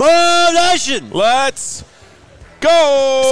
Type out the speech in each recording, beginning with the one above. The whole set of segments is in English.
Bull Nation. Let's go!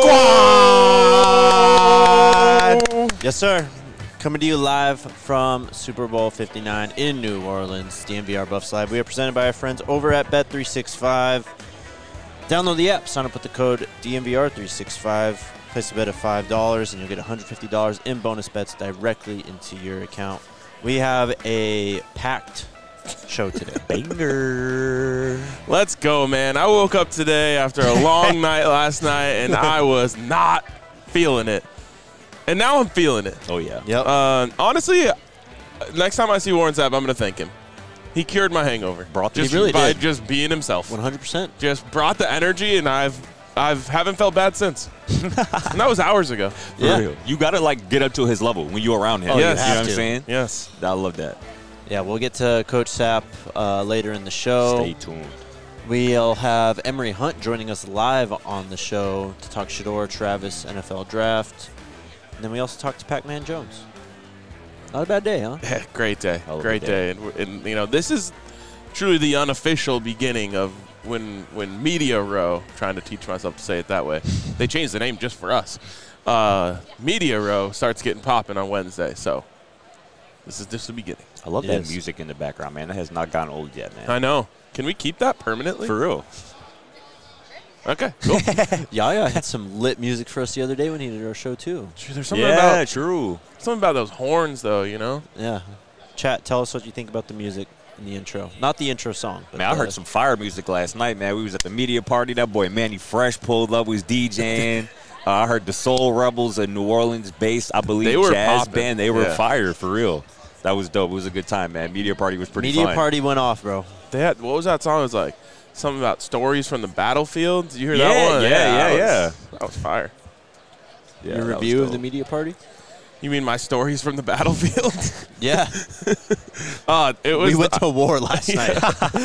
Squad! Yes, sir. Coming to you live from Super Bowl 59 in New Orleans, DNVR Buffs Live. We are presented by our friends over at Bet365. Download the app, sign up with the code DNVR365, place a bet of $5, and you'll get $150 in bonus bets directly into your account. We have a packed show today. Banger. Let's go, man. I woke up today after a long night last night, and I was not feeling it. And now I'm feeling it. Oh, yeah. Yep. Honestly, next time I see Warren Sapp, I'm going to thank him. He cured my hangover. He really by did. just being himself. 100%. Just brought the energy, and I haven't felt bad since. And that was hours ago. For Yeah. real. You got to, like, get up to his level when you're around him. Oh, yes. You know what I'm to. saying? Yes. I love that. Yeah, we'll get to Coach Sapp later in the show. Stay tuned. We'll have Emery Hunt joining us live on the show to talk Shedeur Travis NFL Draft. And then we also talked to Pac-Man Jones. Not a bad day, huh? Yeah, great day. Hell of a Great day. And, you know, this is truly the unofficial beginning of when Media Row, trying to teach myself to say it that way, they changed the name just for us. Media Row starts getting popping on Wednesday. So this is just the beginning. I love Yes. that music in the background, man. That has not gotten old yet, man. I know. Can we keep that permanently? For real. Okay, cool. Yaya had some lit music for us the other day when he did our show, too. There's something Yeah, true. about those horns, though, you know? Yeah. Chat, tell us what you think about the music in the intro. Not the intro song. But Man, I heard some fire music last night, man. We was at the media party. That boy Manny Fresh pulled up, was DJing. I heard the Soul Rebels, a New Orleans-based, I believe, They were jazz popping. band. They were Yeah. fire, for real. That was dope. It was a good time, man. Media party was pretty Media fun. party went off, bro. They had, what was that song? It was like something about stories from the battlefield. Did you hear Yeah, that one? yeah. That was fire. Yeah, Your that was review of dope. the media party? You mean my stories from the battlefield? Yeah. It was We went to war last night.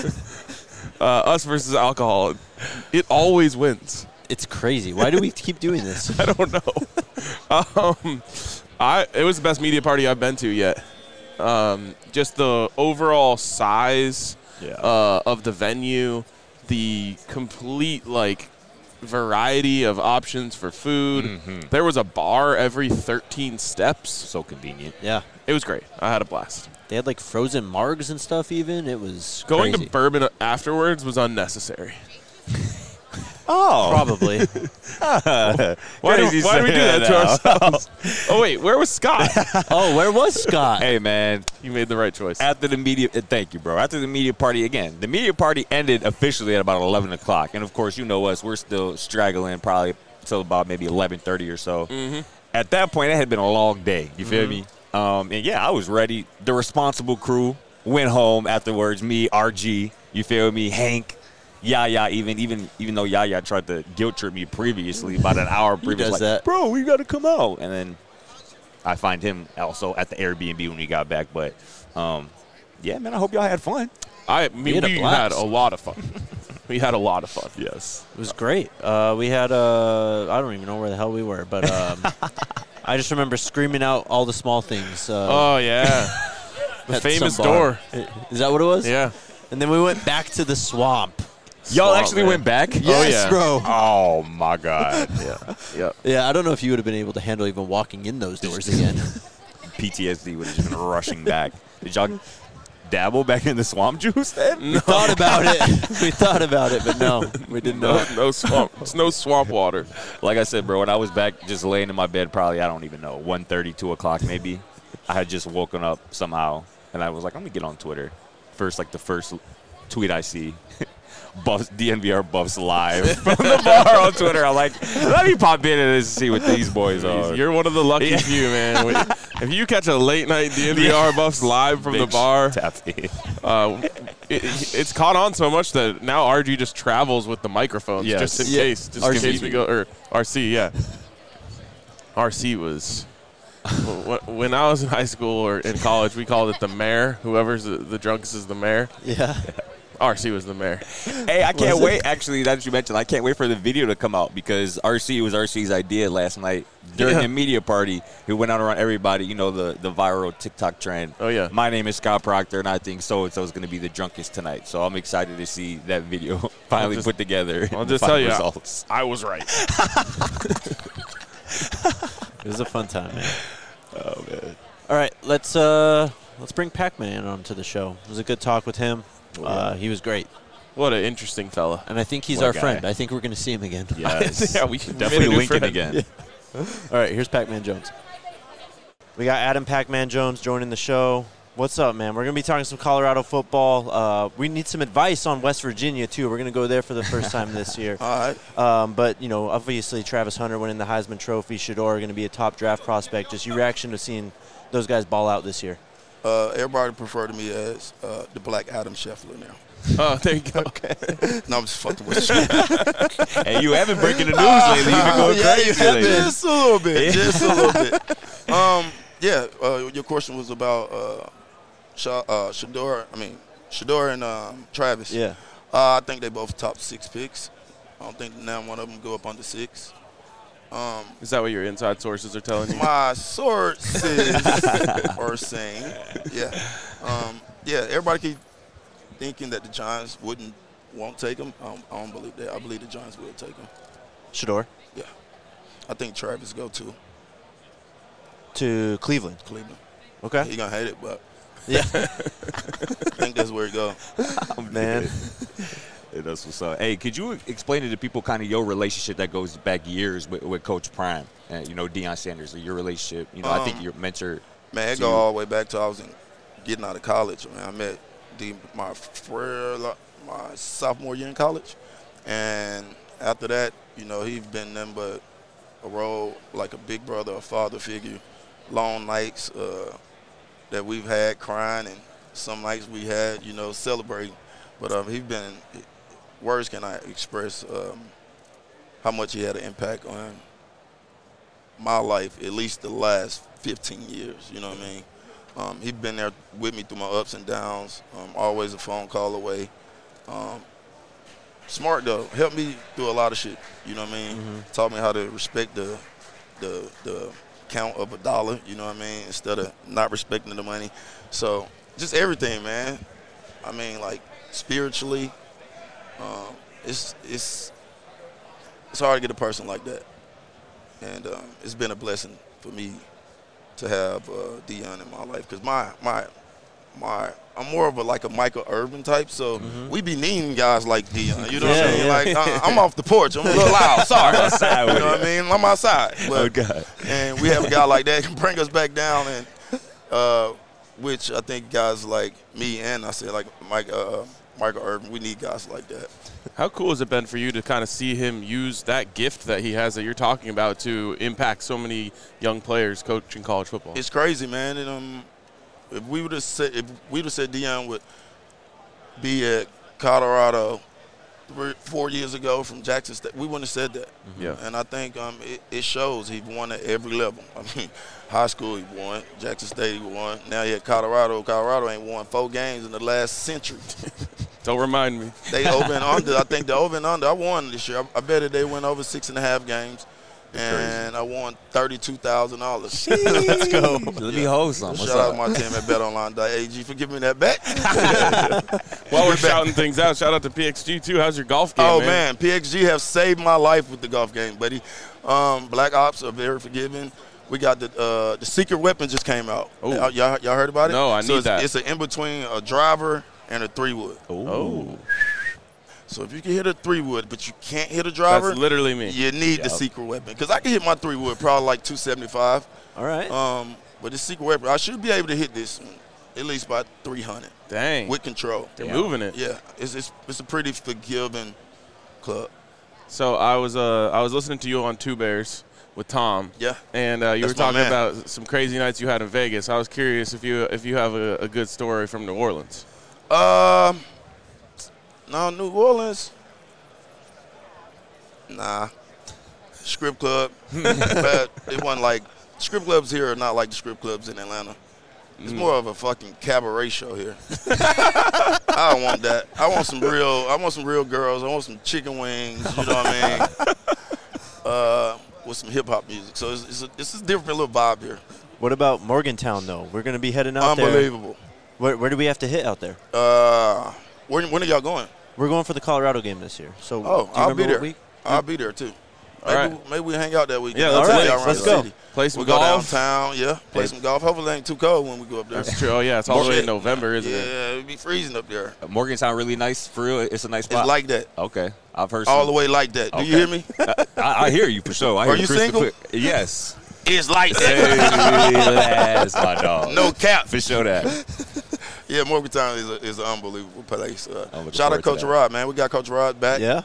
us versus alcohol. It always wins. It's crazy. Why do we keep doing this? I don't know. It was the best media party I've been to yet. Just the overall size of the venue, the complete variety of options for food. Mm-hmm. There was a bar every 13 steps. So convenient. Yeah. It was great. I had a blast. They had like frozen margs and stuff even. It was Going crazy. to bourbon afterwards was unnecessary. Oh. Probably. Why did we do that to ourselves? Oh, wait. Where was Scott? Oh, where was Scott? Hey, man. You made the right choice. After the media, thank you, bro. After the media party, again, the media party ended officially at about 11 o'clock. And, of course, you know us. We're still straggling probably till about maybe 11:30 or so. Mm-hmm. At that point, it had been a long day. You feel me? And, yeah, I was ready. The responsible crew went home afterwards. Me, RG, you feel me, Hank. Yaya, even though Yaya tried to guilt trip me previously, about an hour previous, does like, that. bro, we got to come out. And then I find him also at the Airbnb when we got back. But, yeah, man, I hope y'all had fun. We had a had blast. a lot of fun. We had a lot of fun. Yes. It was great. We had I don't even know where the hell we were, but I just remember screaming out all the small things. Oh, yeah. The at famous some bar. door. Is that what it was? Yeah. And then we went back to the swamp. Y'all Swamp, actually man. went back? Yes, yeah. bro. Oh, my God. Yeah. Yep. Yeah, I don't know if you would have been able to handle even walking in those doors again. PTSD would have just been rushing back. Did y'all dabble back in the swamp juice then? We thought about it. We thought about it, but no, we did not. No swamp. It's no swamp water. Like I said, bro, when I was back just laying in my bed probably, I don't even know, 1:30, 2 o'clock maybe, I had just woken up somehow, and I was like, I'm going to get on Twitter. The first tweet I see, Buffs, DNVR Buffs live from the bar on Twitter. I'm like, let me pop in and see what these boys are. You're one of the lucky few, man. If you catch a late night DNVR Buffs live from the Big bar, tap in. it's caught on so much that now RG just travels with the microphones Yes. just in Yeah. case. Just in RC. case we go, or RC, yeah. RC was, when I was in high school or in college, we called it the mayor. Whoever's the drunkest is the mayor. Yeah. RC was the mayor. Hey, I can't wait. Actually, that you mentioned, I can't wait for the video to come out because RC's idea last night during the media party. He went out around everybody, you know, the viral TikTok trend. Oh, yeah. My name is Scott Proctor, and I think so-and-so is going to be the drunkest tonight. So I'm excited to see that video finally put together. I'll just tell you, results. I was right. It was a fun time, man. Oh, man. All right, let's bring Pac-Man onto the show. It was a good talk with him. He was great. What an interesting fella. And I think he's What a our guy. friend. I think we're going to see him again. Yes. Yeah, we should Definitely made a new Lincoln friend. again. Yeah. All right, here's Pac-Man Jones. We got Adam Pac-Man Jones joining the show. What's up, man? We're going to be talking some Colorado football. We need some advice on West Virginia, too. We're going to go there for the first time this year. All right. But, you know, obviously Travis Hunter winning the Heisman Trophy, Shedeur going to be a top draft prospect. Just your reaction to seeing those guys ball out this year. Everybody refer to me as the Black Adam Scheffler now. Oh, there you go. Okay. No, I'm just fucking with you. Hey, you haven't breaking the news lately. You've been going crazy lately. Just a little bit. Just a little bit. Your question was about Shedeur and Travis. Yeah. I think they both top 6 picks. I don't think now one of them go up under 6. Is that what your inside sources are telling you? My sources are saying, everybody keep thinking that the Giants won't take him. I don't believe that. I believe the Giants will take him. Shedeur Yeah. I think Travis go to Cleveland. Cleveland. Okay. He gonna hate it, but Yeah. I think that's where he go. Man. Yeah, that's what's up. Hey, could you explain to the people kind of your relationship that goes back years with Coach Prime and, you know, Deion Sanders, your relationship? You know, I think your mentor. Man, it go all the way back to I was getting out of college. Man, I met my sophomore year in college. And after that, you know, he's been nothing but a role like a big brother, a father figure. Long nights that we've had crying and some nights we had, you know, celebrating. But he's been – words cannot express how much he had an impact on my life, at least the last 15 years, you know what I mean? He's been there with me through my ups and downs, always a phone call away. Smart, though. Helped me through a lot of shit, you know what I mean? Mm-hmm. Taught me how to respect the count of a dollar, you know what I mean, instead of not respecting the money. So just everything, man. I mean, like, spiritually, it's hard to get a person like that, and it's been a blessing for me to have Deion in my life because I'm more of a Michael Irvin type, so we be needing guys like Deion. You know what I'm saying? Like I'm off the porch, I'm a little loud. Sorry, outside you know what I mean? I'm outside, but, Okay. and we have a guy like that can bring us back down, and which I think guys like me and I said like Michael Irvin, we need guys like that. How cool has it been for you to kind of see him use that gift that he has that you're talking about to impact so many young players coaching college football? It's crazy, man. And if we would have said Deion would be at Colorado 4 years ago from Jackson State, we wouldn't have said that. Yeah. And I think it shows he won at every level. I mean, high school he won, Jackson State he won. Now he at Colorado. Colorado ain't won 4 games in the last century. Don't remind me. They over and under. I think the over and under. I won this year. I bet they went over 6.5 games. And I won $32,000. Let's go. Let me hold some. What's Shout out up? my team at BetOnline.ag for giving me that bet. While we're shouting things out, shout out to PXG too. How's your golf game, Oh, man? PXG have saved my life with the golf game, buddy. Black Ops are very forgiving. We got the secret weapon just came out. Ooh. Y'all heard about it? No, I need that. It's an in-between a driver and a 3-wood. Oh. So if you can hit a 3-wood, but you can't hit a driver, That's literally me. you need the secret weapon. Because I can hit my 3-wood probably like 275. All right. But the secret weapon, I should be able to hit this at least about 300 Dang. with control. They're moving it. Yeah, it's a pretty forgiving club. So I was listening to you on Two Bears with Tom. Yeah. And you were That's my talking man. about some crazy nights you had in Vegas. I was curious if you have a good story from New Orleans. No, New Orleans. Nah. Strip club. But it wasn't like strip clubs here are not like the strip clubs in Atlanta. It's more of a fucking cabaret show here. I don't want that. I want some real girls. I want some chicken wings. You know what I mean? With some hip hop music. So it's a different little vibe here. What about Morgantown though? We're gonna be heading out there. Unbelievable. Where do we have to hit out there? When are y'all going? We're going for the Colorado game this year. So I'll be there. Week? I'll be there too. Maybe we hang out that weekend. Yeah, let's go. Play some We'll golf. go downtown, play some golf. Hopefully it ain't too cold when we go up there. That's true. Oh, yeah, it's all the way in November, isn't it? Yeah, it'll be freezing up there. Morgantown really nice for real. It's a nice spot. It's like that. Okay, I've heard All the way like that. Do you hear me? I hear you for sure. Are you single? Yes. It's like that. Hey, that's my dog. No cap. For sure that. Yeah, Morgantown is an unbelievable place. Shout forward out Coach to that. Rod, man. We got Coach Rod back. Yeah.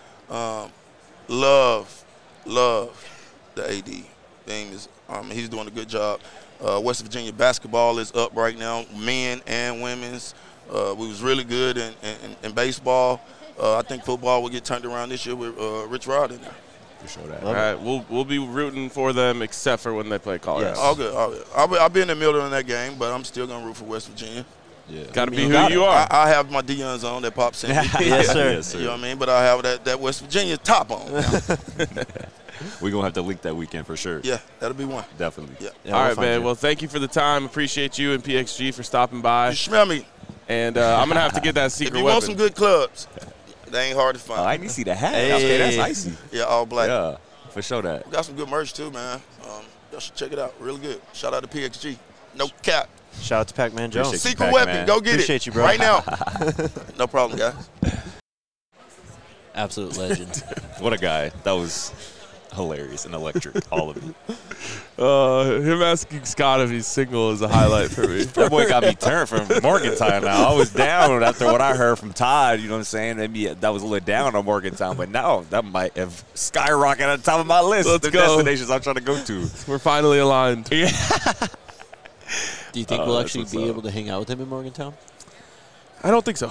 Love the AD thing. He's doing a good job. West Virginia basketball is up right now, men and women's. We was really good in baseball. I think football will get turned around this year with Rich Rod in there. For sure that. All right, we'll be rooting for them except for when they play Colorado. Yes. All good. I'll be in the middle of that game, but I'm still going to root for West Virginia. Yeah. Got to be who you are. I have my Deion zone that pops in. Yes, sir. Yes, sir. You know what I mean? But I have that West Virginia top on. We're going to have to link that weekend for sure. Yeah, that'll be one. Definitely. Yeah. Yeah, All we'll right, find man. you. Well, thank you for the time. Appreciate you and PXG for stopping by. You smell me. And I'm going to have to get that If secret you weapon. want some good clubs, they ain't hard to find. Oh, I need to see the hat. Hey. Okay, that's icy. Yeah, all black. Yeah, for sure that. We got some good merch too, man. Y'all should check it out. Really good. Shout out to PXG. No cap. Shout out to Pac-Man Jones. Appreciate you, Secret Pac-Man. weapon. Go get Appreciate it. you, bro. Right now. No problem, guys. Absolute legend. What a guy. That was hilarious and electric, all of it. Him asking Scott if he's single is a highlight for me. That boy got me turned from Morgantown now. I was down after what I heard from Todd, you know what I'm saying? Maybe that was a little down on Morgantown, but now that might have skyrocketed at the top of my list. Let's the go. destinations I'm trying to go to. We're finally aligned. Do you think we'll that's actually what's be up. able to hang out with him in Morgantown? I don't think so.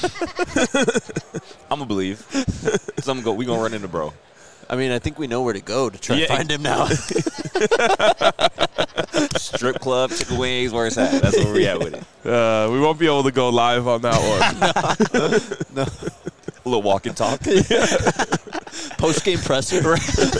I'm going to believe. So we going to run into bro. I mean, I think we know where to go to try to Yeah. find him now. Strip club, chicken wings, where it's at. That's where we at with it. We won't be able to go live on that one. A little walk and talk. Post-game presser.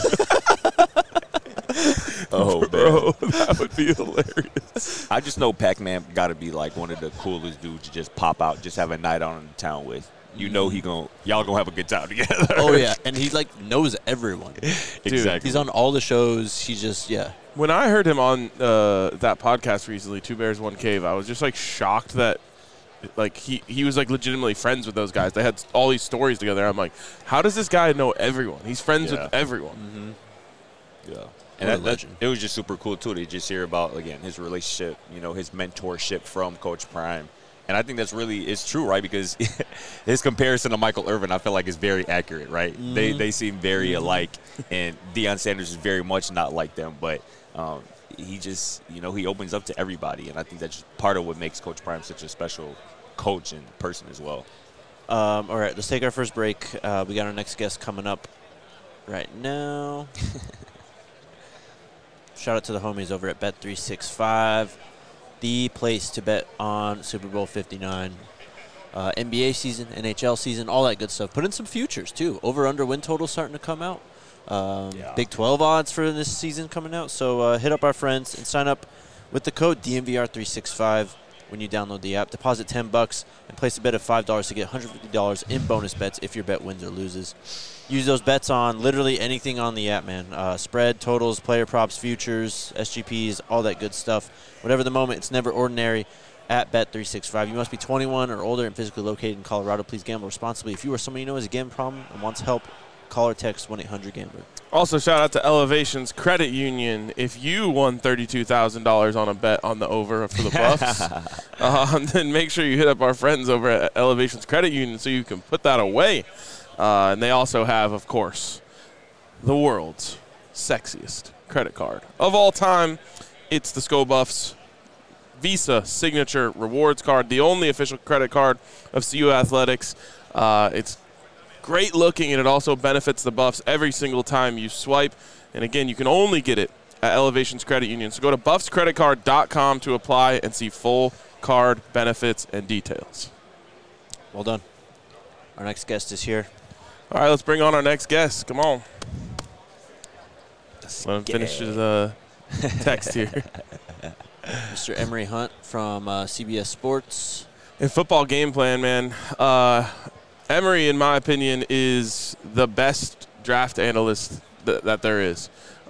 Oh, man. Bro, that would be hilarious. I just know Pac-Man got to be like one of the coolest dudes to just pop out, just have a night out in town with. You know y'all gonna have a good time together. Oh, yeah. And he, knows everyone. Exactly. He's on all the shows. He just, When I heard him on that podcast recently, Two Bears, One Cave, I was just shocked that he was legitimately friends with those guys. They had all these stories together. I'm like, how does this guy know everyone? He's friends with everyone. Yeah. What a And legend. it was just super cool, too, to just hear about, again, his relationship, his mentorship from Coach Prime. And I think that's it's true, right? Because his comparison to Michael Irvin, I feel like, is very accurate, right? They seem very alike, and Deion Sanders is very much not like them. But he just, he opens up to everybody, and I think that's just part of what makes Coach Prime such a special coach and person as well. All right, let's take our first break. We got our next guest coming up right now. Shout out to the homies over at Bet365. The place to bet on Super Bowl 59. NBA season, NHL season, all that good stuff. Put in some futures, too. Over-under win total starting to come out. Big 12 odds for this season coming out. So hit up our friends and sign up with the code DNVR365 when you download the app. Deposit $10 and place a bet of $5 to get $150 in bonus bets if your bet wins or loses. Use those bets on literally anything on the app, man. Spread, totals, player props, futures, SGPs, all that good stuff. Whatever the moment, it's never ordinary at Bet365. You must be 21 or older and physically located in Colorado. Please gamble responsibly. If you or someone you know has a gambling problem and wants help, call or text 1-800-GAMBLER. Also, shout out to Elevations Credit Union. If you won $32,000 on a bet on the over for the Buffs, then make sure you hit up our friends over at Elevations Credit Union so you can put that away. And they also have, of course, the world's sexiest credit card of all time. It's the Sko Buffs Visa Signature Rewards Card, the only official credit card of CU Athletics. It's great looking, and it also benefits the Buffs every single time you swipe. And again, you can only get it at Elevations Credit Union. So go to buffscreditcard.com to apply and see full card benefits and details. Well done. Our next guest is here. All right, let's bring on our next guest. Come on. Let him finish his text here. Mr. Emory Hunt from CBS Sports. In football game plan, man, Emory, in my opinion, is the best draft analyst that there is.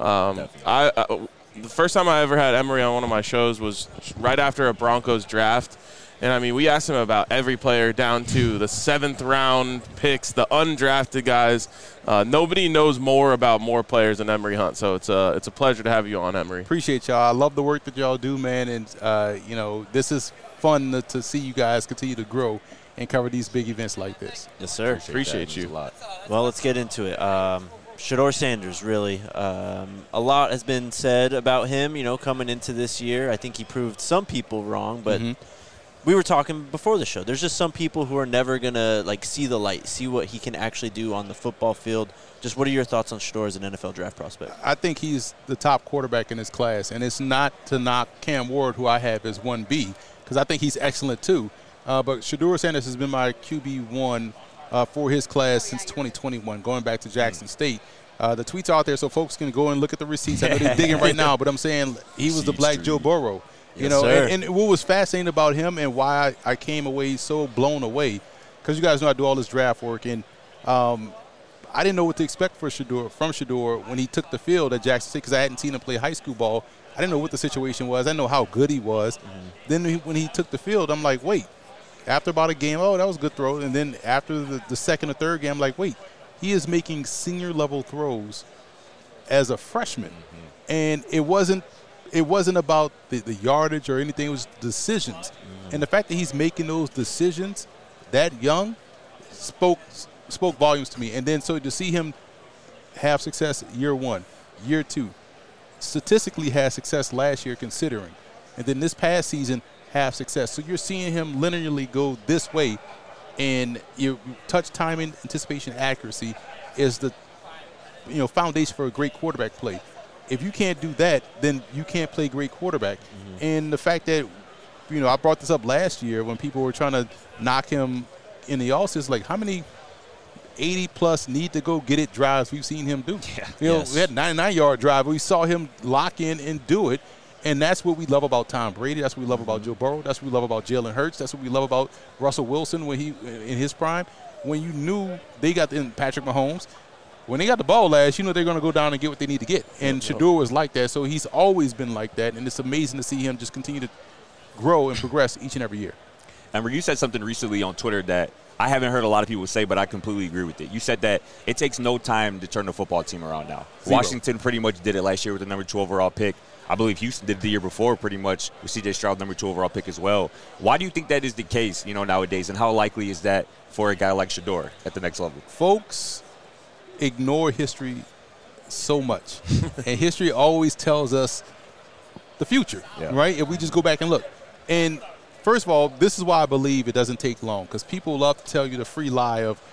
The first time I ever had Emory on one of my shows was right after a Broncos draft. And, I mean, we asked him about every player down to the 7th-round picks, the undrafted guys. Nobody knows more about more players than Emory Hunt. So it's a pleasure to have you on, Emory. Appreciate y'all. I love the work that y'all do, man. And, this is fun to see you guys continue to grow and cover these big events like this. Yes, sir. Appreciate you. A lot. Well, let's get into it. Shedeur Sanders, really. A lot has been said about him, coming into this year. I think he proved some people wrong, but we were talking before the show. There's just some people who are never going to, see the light, see what he can actually do on the football field. Just what are your thoughts on Shedeur as an NFL draft prospect? I think he's the top quarterback in his class, and it's not to knock Cam Ward, who I have as 1B, because I think he's excellent too. But Shedeur Sanders has been my QB1 for his class since 2021, going back to Jackson State. The tweets are out there, so folks can go and look at the receipts. I know they're digging right now, but I'm saying he was the Black Joe Burrow. And what was fascinating about him and why I came away so blown away, because you guys know I do all this draft work, and I didn't know what to expect from Shedeur when he took the field at Jackson State, because I hadn't seen him play high school ball. I didn't know what the situation was. I didn't know how good he was. Then when he took the field, I'm like, wait. After about a game, that was a good throw. And then after the second or third game, I'm like, wait. He is making senior-level throws as a freshman. And it wasn't about the yardage or anything. It was decisions. And the fact that he's making those decisions that young spoke volumes to me. And then so to see him have success year one, year two, statistically had success last year considering, and then this past season have success. So you're seeing him linearly go this way, and your touch timing, anticipation, accuracy is the foundation for a great quarterback play. If you can't do that, then you can't play great quarterback. And the fact that I brought this up last year when people were trying to knock him in the offseason, like how many 80-plus need-to-go get-it drives we've seen him do. We had a 99-yard drive. We saw him lock in and do it, and that's what we love about Tom Brady. That's what we love about Joe Burrow. That's what we love about Jalen Hurts. That's what we love about Russell Wilson when he in his prime. When you knew they got Patrick Mahomes, when they got the ball last, they're going to go down and get what they need to get. And Shedeur was like that, so he's always been like that, and it's amazing to see him just continue to grow and progress each and every year. And you said something recently on Twitter that I haven't heard a lot of people say, but I completely agree with it. You said that it takes no time to turn the football team around now. Zero. Washington pretty much did it last year with the number 2 overall pick. I believe Houston did the year before pretty much with C.J. Stroud, number 2 overall pick as well. Why do you think that is the case, nowadays, and how likely is that for a guy like Shedeur at the next level? Folks ignore history so much, and history always tells us the future, right? If we just go back and look. And first of all, this is why I believe it doesn't take long, because people love to tell you the free lie of,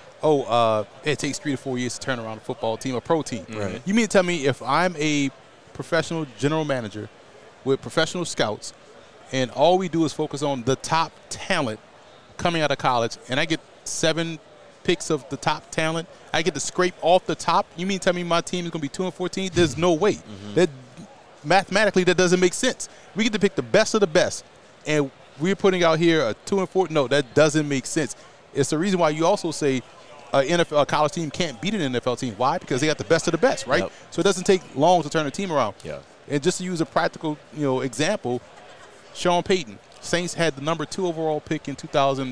it takes 3 to 4 years to turn around a football team, a pro team. Right. You mean to tell me if I'm a professional general manager with professional scouts and all we do is focus on the top talent coming out of college, and I get 7 picks of the top talent, I get to scrape off the top, you mean to tell me my team is going to be 2-14? There's no way. That mathematically, that doesn't make sense. We get to pick the best of the best, and we're putting out here a 2-4. No, that doesn't make sense. It's the reason why you also say a college team can't beat an NFL team. Why? Because they got the best of the best, right? Yep. So it doesn't take long to turn a team around. Yeah. And just to use a practical, example, Sean Payton, Saints had the number 2 overall pick in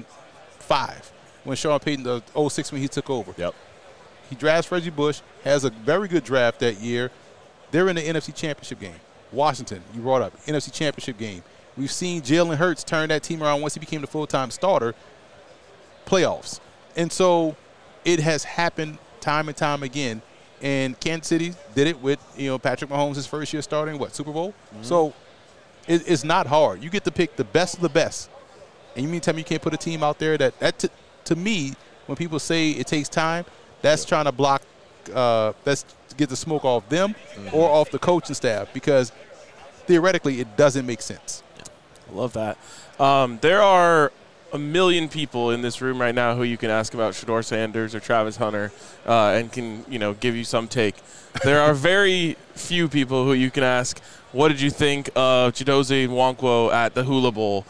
2005 when Sean Payton, the 06 when he took over. Yep. He drafts Reggie Bush, has a very good draft that year. They're in the NFC Championship game. Washington, you brought up, NFC Championship game. We've seen Jalen Hurts turn that team around once he became the full-time starter, playoffs. And so it has happened time and time again. And Kansas City did it with, Patrick Mahomes, his first year starting, Super Bowl? So it's not hard. You get to pick the best of the best. And you mean to tell me you can't put a team out there that to me, when people say it takes time, that's trying to block let's get the smoke off them or off the coaching staff, because theoretically it doesn't make sense. I love that. There are a million people in this room right now who you can ask about Shedeur Sanders or Travis Hunter and can, give you some take. There are very few people who you can ask, what did you think of Chidozie Nwankwo at the Hula Bowl?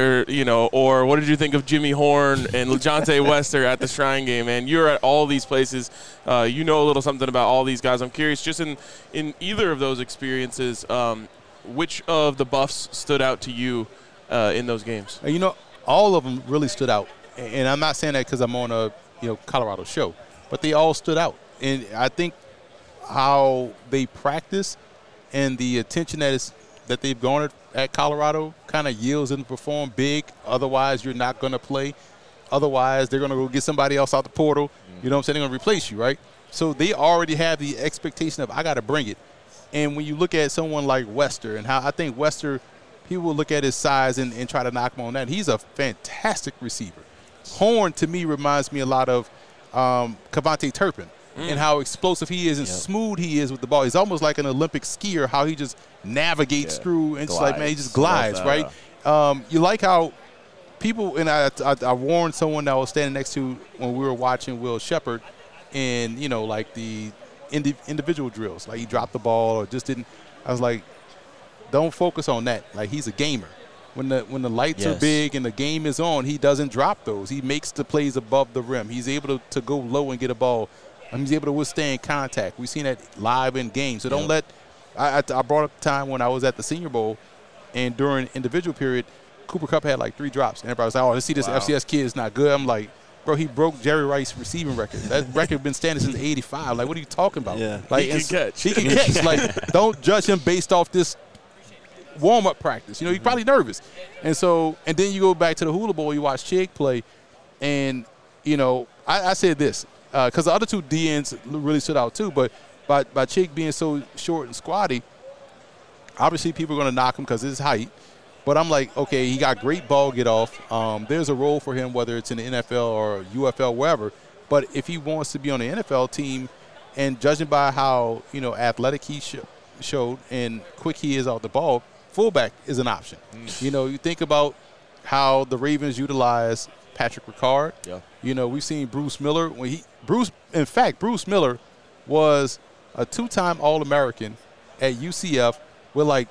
Or what did you think of Jimmy Horn and LeJontay Wester at the Shrine Game? And you're at all these places. You know a little something about all these guys. I'm curious, just in either of those experiences, which of the Buffs stood out to you in those games? All of them really stood out. And I'm not saying that because I'm on a Colorado show, but they all stood out. And I think how they practice and the attention that they've garnered at Colorado kind of yields them to perform big. Otherwise, you're not going to play. Otherwise, they're going to go get somebody else out the portal. You know what I'm saying? They're going to replace you, right? So they already have the expectation of, I got to bring it. And when you look at someone like Wester, and how I think Wester, people will look at his size and try to knock him on that. He's a fantastic receiver. Horn, to me, reminds me a lot of Kevontae Turpin and how explosive he is and smooth he is with the ball. He's almost like an Olympic skier, how he just navigates through and just he just glides, right? You like how people, and I warned someone that I was standing next to when we were watching Will Shepherd and, the individual drills. Like he dropped the ball or just didn't. I was like, don't focus on that. Like, he's a gamer. When the lights are big and the game is on, he doesn't drop those. He makes the plays above the rim. He's able to go low and get a ball. He's able to withstand contact. We've seen that live in games. So don't let – I brought up the time when I was at the Senior Bowl, and during individual period, Cooper Kupp had like 3 drops. And everybody was like, let's see this FCS kid is not good. I'm like, bro, he broke Jerry Rice's receiving record. That record has been standing since '85. Like, what are you talking about? Yeah. Like, he can catch. He can catch. Like, don't judge him based off this warm-up practice. He's probably nervous. And then you go back to the Hula Bowl, you watch Chig play, and, I said this, because the other 2 DNs really stood out too, but by Chig being so short and squatty, obviously people are going to knock him because of his height. But I'm like, okay, he got great ball get off. There's a role for him, whether it's in the NFL or UFL, wherever. But if he wants to be on the NFL team, and judging by how, athletic he showed and quick he is out the ball, fullback is an option. You think about how the Ravens utilize Patrick Ricard. Yeah. We've seen Bruce Miller. Bruce Miller was a 2-time All-American at UCF with like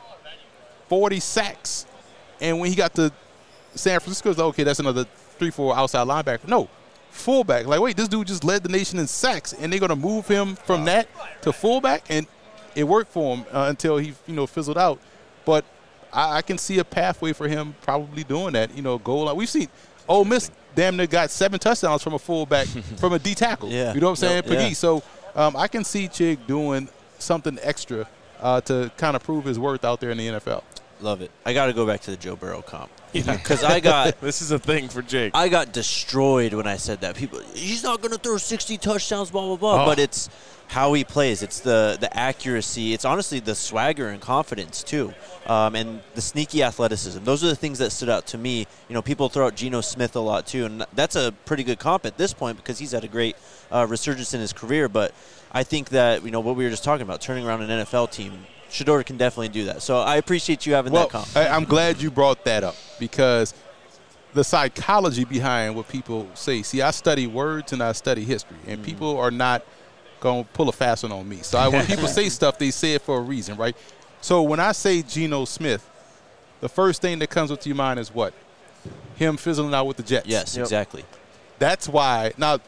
40 sacks. And when he got to San Francisco, it's like, okay, that's another 3-4 outside linebacker. No, fullback. Like, wait, this dude just led the nation in sacks, and they're going to move him from that to fullback, and it worked for him until he, fizzled out. But I can see a pathway for him probably doing that, goal line. We've seen Ole Miss damn near got 7 touchdowns from a fullback, from a D tackle. Yeah. You know what I'm saying? Yeah. So I can see Chig doing something extra to kind of prove his worth out there in the NFL. Love it. I got to go back to the Joe Burrow comp. Yeah. Because I got – this is a thing for Jake. I got destroyed when I said that. People, he's not going to throw 60 touchdowns, blah, blah, blah. But it's how he plays. It's the accuracy. It's honestly the swagger and confidence, too, and the sneaky athleticism. Those are the things that stood out to me. People throw out Geno Smith a lot, too, and that's a pretty good comp at this point because he's had a great resurgence in his career. But I think that, what we were just talking about, turning around an NFL team – Shedeur can definitely do that. So I appreciate you having that comp. I'm glad you brought that up because the psychology behind what people say. See, I study words and I study history, and people are not going to pull a fast one on me. So when people say stuff, they say it for a reason, right? So when I say Geno Smith, the first thing that comes to your mind is what? Him fizzling out with the Jets. Yes, exactly. That's why. Now,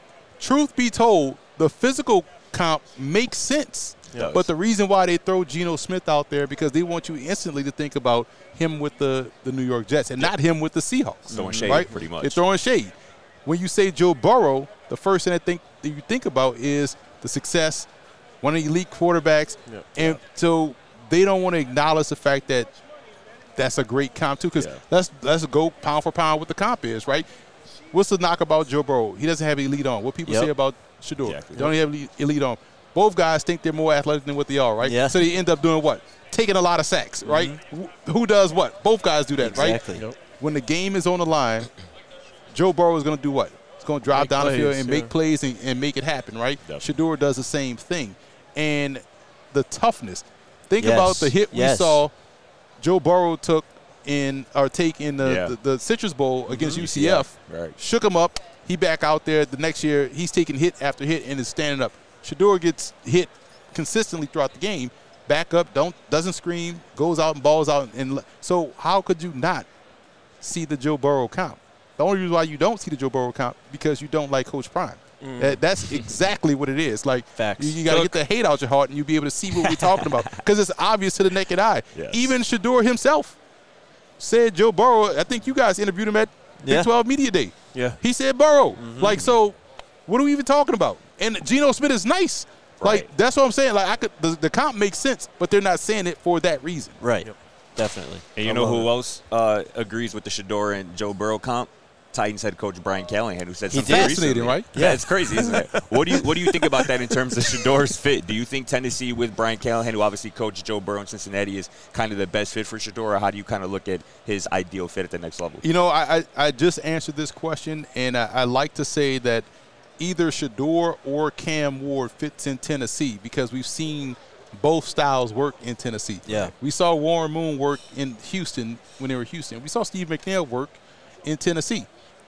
truth be told, the physical comp makes sense. But the reason why they throw Geno Smith out there because they want you instantly to think about him with the New York Jets and not him with the Seahawks. Throwing shade, right? pretty much. They're throwing shade. When you say Joe Burrow, the first thing that you think about is the success, one of the elite quarterbacks. And so they don't want to acknowledge the fact that that's a great comp too because let's go pound for pound what the comp is, right? What's the knock about Joe Burrow? He doesn't have elite on. What people say about Shedeur? Exactly. They don't have elite on. Both guys think they're more athletic than what they are, right? Yeah. So they end up doing what? Taking a lot of sacks, right? Who does what? Both guys do that, exactly. right? When the game is on the line, Joe Burrow is going to do what? He's going to drive Make down the field plays, and make plays and make it happen, right? Definitely. Shedeur does the same thing. And the toughness. Think Yes. about the hit we Yes. saw Joe Burrow take in the Citrus Bowl against UCF. Right. Shook him up. He back out there. The next year, he's taking hit after hit and is standing up. Shedeur gets hit consistently throughout the game. Back up, doesn't scream, goes out and balls out. And so how could you not see the Joe Burrow comp? The only reason why you don't see the Joe Burrow comp because you don't like Coach Prime. That's exactly what it is. Like, Facts. you got to get the hate out your heart and you'll be able to see what we're talking about because it's obvious to the naked eye. Yes. Even Shedeur himself said Joe Burrow. I think you guys interviewed him at Yeah. Big 12 Media Day. Yeah. He said Burrow. Like, so what are we even talking about? And Geno Smith is nice. Right. Like, that's what I'm saying. Like, the comp makes sense, but they're not saying it for that reason. Right. Definitely. And you I know love who it. else agrees with the Shedeur and Joe Burrow comp? Titans head coach Brian Callahan, who said He something did. Fascinating, recently. right? Yeah, it's crazy, isn't it? What do you think about that in terms of Shedeur's fit? Do you think Tennessee with Brian Callahan, who obviously coached Joe Burrow in Cincinnati, is kind of the best fit for Shedeur, or how do you kind of look at his ideal fit at the next level? You know, I just answered this question, and I like to say that either Shedeur or Cam Ward fits in Tennessee because we've seen both styles work in Tennessee. Yeah. We saw Warren Moon work in Houston when they were Houston. We saw Steve McNair work in Tennessee.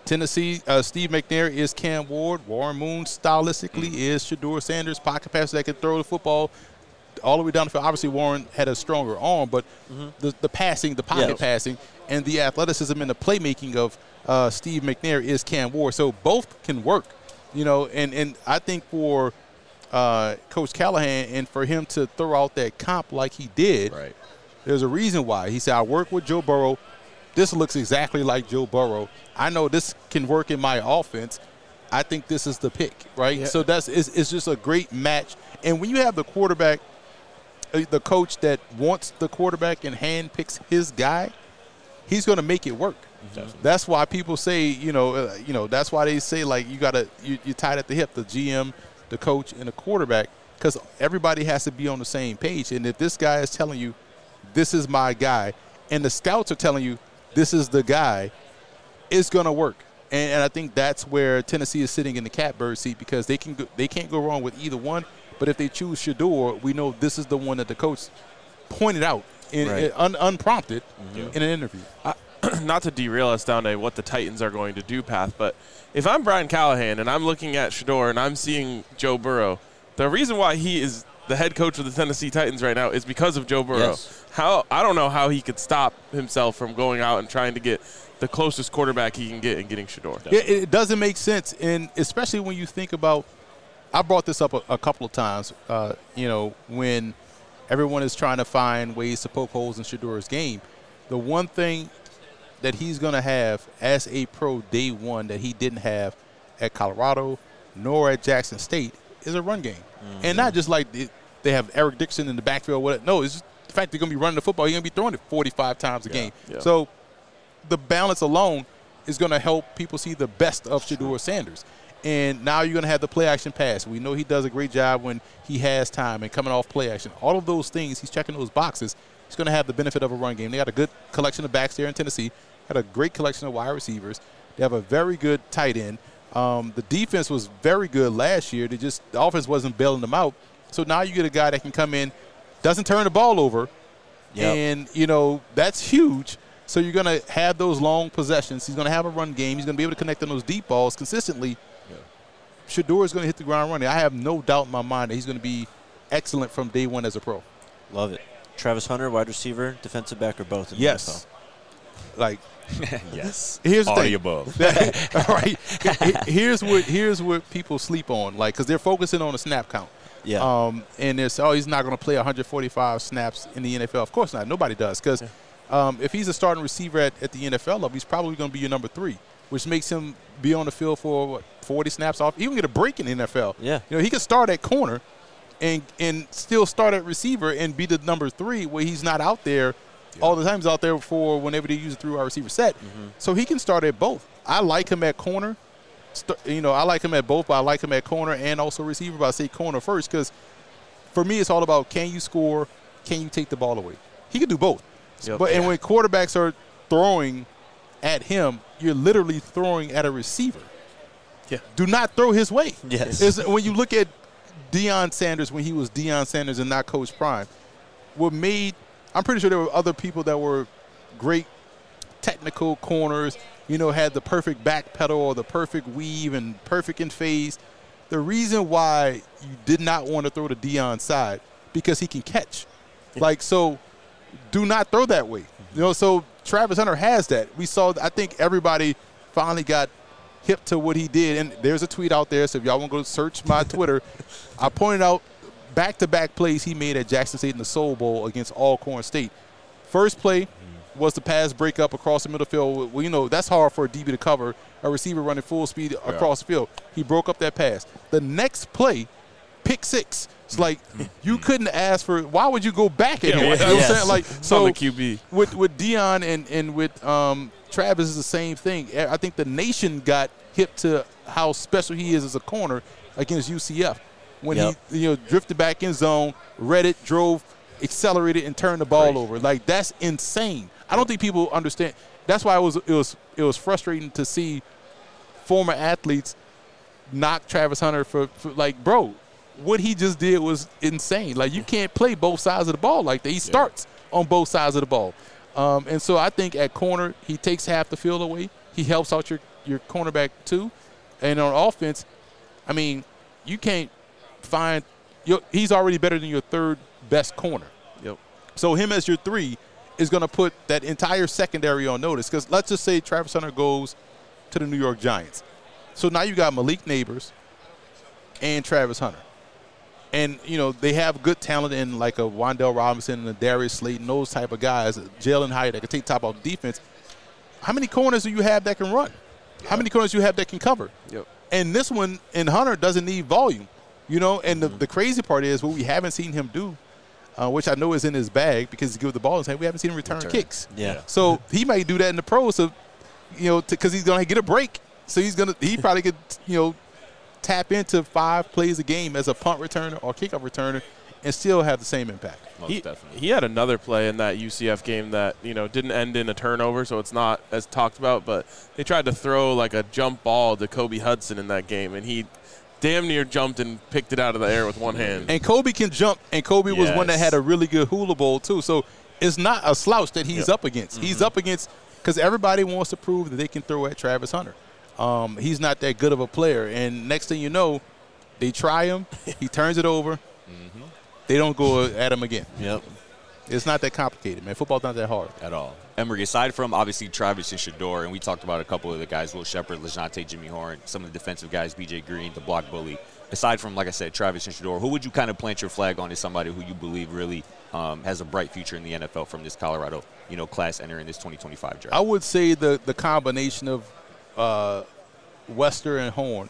Steve McNair is Cam Ward. Warren Moon stylistically is Shedeur Sanders, pocket passer that can throw the football all the way down the field. Obviously, Warren had a stronger arm, but the passing, the pocket passing, and the athleticism and the playmaking of Steve McNair is Cam Ward. So both can work, you know. And I think for Coach Callahan and for him to throw out that comp like he did, Right. there's a reason why. He said, I work with Joe Burrow. This looks exactly like Joe Burrow. I know this can work in my offense. I think this is the pick, right? Yeah. So it's just a great match. And when you have the quarterback, the coach that wants the quarterback and handpicks his guy, he's going to make it work. Definitely. That's why people say, that's why they say, like, you're tied at the hip, the GM, the coach, and the quarterback, because everybody has to be on the same page. And if this guy is telling you, this is my guy, and the scouts are telling you, this is the guy, it's going to work. And I think that's where Tennessee is sitting in the catbird seat because they can't go wrong with either one. But if they choose Shedeur, we know this is the one that the coach pointed out unprompted in an interview. Not to derail us down to what the Titans are going to do path, but if I'm Brian Callahan and I'm looking at Shedeur and I'm seeing Joe Burrow, the reason why he is the head coach of the Tennessee Titans right now is because of Joe Burrow. Yes. I don't know how he could stop himself from going out and trying to get the closest quarterback he can get and getting Shedeur. Yeah, it doesn't make sense, and especially when you think about – I brought this up a couple of times, when everyone is trying to find ways to poke holes in Shedeur's game. The one thing that he's going to have as a pro day one that he didn't have at Colorado nor at Jackson State is a run game. And not just like they have Eric Dixon in the backfield. No, it's just the fact they're going to be running the football. You're going to be throwing it 45 times a game. Yeah. So the balance alone is going to help people see the best of Shedeur Sanders. And now you're going to have the play-action pass. We know he does a great job when he has time and coming off play-action. All of those things, he's checking those boxes. He's going to have the benefit of a run game. They got a good collection of backs there in Tennessee. Got a great collection of wide receivers. They have a very good tight end. The defense was very good last year. The offense wasn't bailing them out. So now you get a guy that can come in, doesn't turn the ball over, and, that's huge. So you're going to have those long possessions. He's going to have a run game. He's going to be able to connect on those deep balls consistently. Shedeur is going to hit the ground running. I have no doubt in my mind that he's going to be excellent from day one as a pro. Love it. Travis Hunter, wide receiver, defensive back, or both? In the Yes. Like, Yes. here's the All thing. the above. All right. Here's what people sleep on, like, because they're focusing on the snap count. Yeah. And there's, he's not going to play 145 snaps in the NFL. Of course not. Nobody does. Because if he's a starting receiver at the NFL level, he's probably going to be your number 3, which makes him be on the field for, 40 snaps off. He can get a break in the NFL. Yeah. He can start at corner and still start at receiver and be the number 3 where he's not out there all the time. He's out there for whenever they use a 3-wide receiver set. So he can start at both. I like him at corner. I like him at both, but I like him at corner and also receiver. But I say corner first because for me it's all about can you score, can you take the ball away. He can do both. Yep. And when quarterbacks are throwing at him, you're literally throwing at a receiver. Yeah. Do not throw his way. Yes. When you look at Deion Sanders when he was Deion Sanders and not Coach Prime, I'm pretty sure there were other people that were great technical corners, had the perfect back pedal or the perfect weave and perfect in phase. The reason why you did not want to throw to Deion's side, because he can catch. So do not throw that way. So Travis Hunter has that. I think everybody finally got hip to what he did. And there's a tweet out there, so if y'all want to go search my Twitter, I pointed out back-to-back plays he made at Jackson State in the Soul Bowl against Alcorn State. First play was the pass breakup across the middle field. Well, that's hard for a DB to cover, a receiver running full speed across the field. He broke up that pass. The next play, pick six. It's like you couldn't ask for. Why would you go back at him? You know what I'm saying? On the QB. With Deion and with Travis is the same thing. I think the nation got hip to how special he is as a corner against UCF when he drifted back in zone, read it, drove, accelerated, and turned the ball over. That's insane. I don't think people understand. That's why it was frustrating to see former athletes knock Travis Hunter for bro. What he just did was insane. You can't play both sides of the ball like that. He starts on both sides of the ball. And so I think at corner, he takes half the field away. He helps out your cornerback too. And on offense, you can't find – he's already better than your third best corner. Yep. So him as your 3 is going to put that entire secondary on notice. Because let's just say Travis Hunter goes to the New York Giants. So now you got Malik Neighbors and Travis Hunter. And, they have good talent in a Wan'Dale Robinson and a Darius Slayton, those type of guys, Jalen Hyatt that can take top off defense. How many corners do you have that can run? Yeah. How many corners do you have that can cover? Yep. And this one in Hunter doesn't need volume, and the crazy part is what we haven't seen him do, which I know is in his bag because he gives the ball in his hand. We haven't seen him return kicks. Yeah. So he might do that in the pros, because he's going to get a break. So he probably could, tap into 5 plays a game as a punt returner or kickoff returner and still have the same impact. He had another play in that UCF game that, didn't end in a turnover, so it's not as talked about, but they tried to throw a jump ball to Kobe Hudson in that game, and he damn near jumped and picked it out of the air with one hand. And Kobe can jump, and Kobe was one that had a really good hula bowl too. So it's not a slouch that he's up against. He's up against because everybody wants to prove that they can throw at Travis Hunter. He's not that good of a player. And next thing you know, they try him. He turns it over. They don't go at him again. Yep. It's not that complicated, man. Football's not that hard. At all. Emery, aside from obviously Travis and Shedeur, and we talked about a couple of the guys, Will Shepard, LeJontay, Jimmy Horn, some of the defensive guys, B.J. Green, the block bully. Aside from, like I said, Travis and Shedeur, who would you kind of plant your flag on as somebody who you believe really has a bright future in the NFL from this Colorado, class entering this 2025 draft? I would say the combination of Wester and Horn.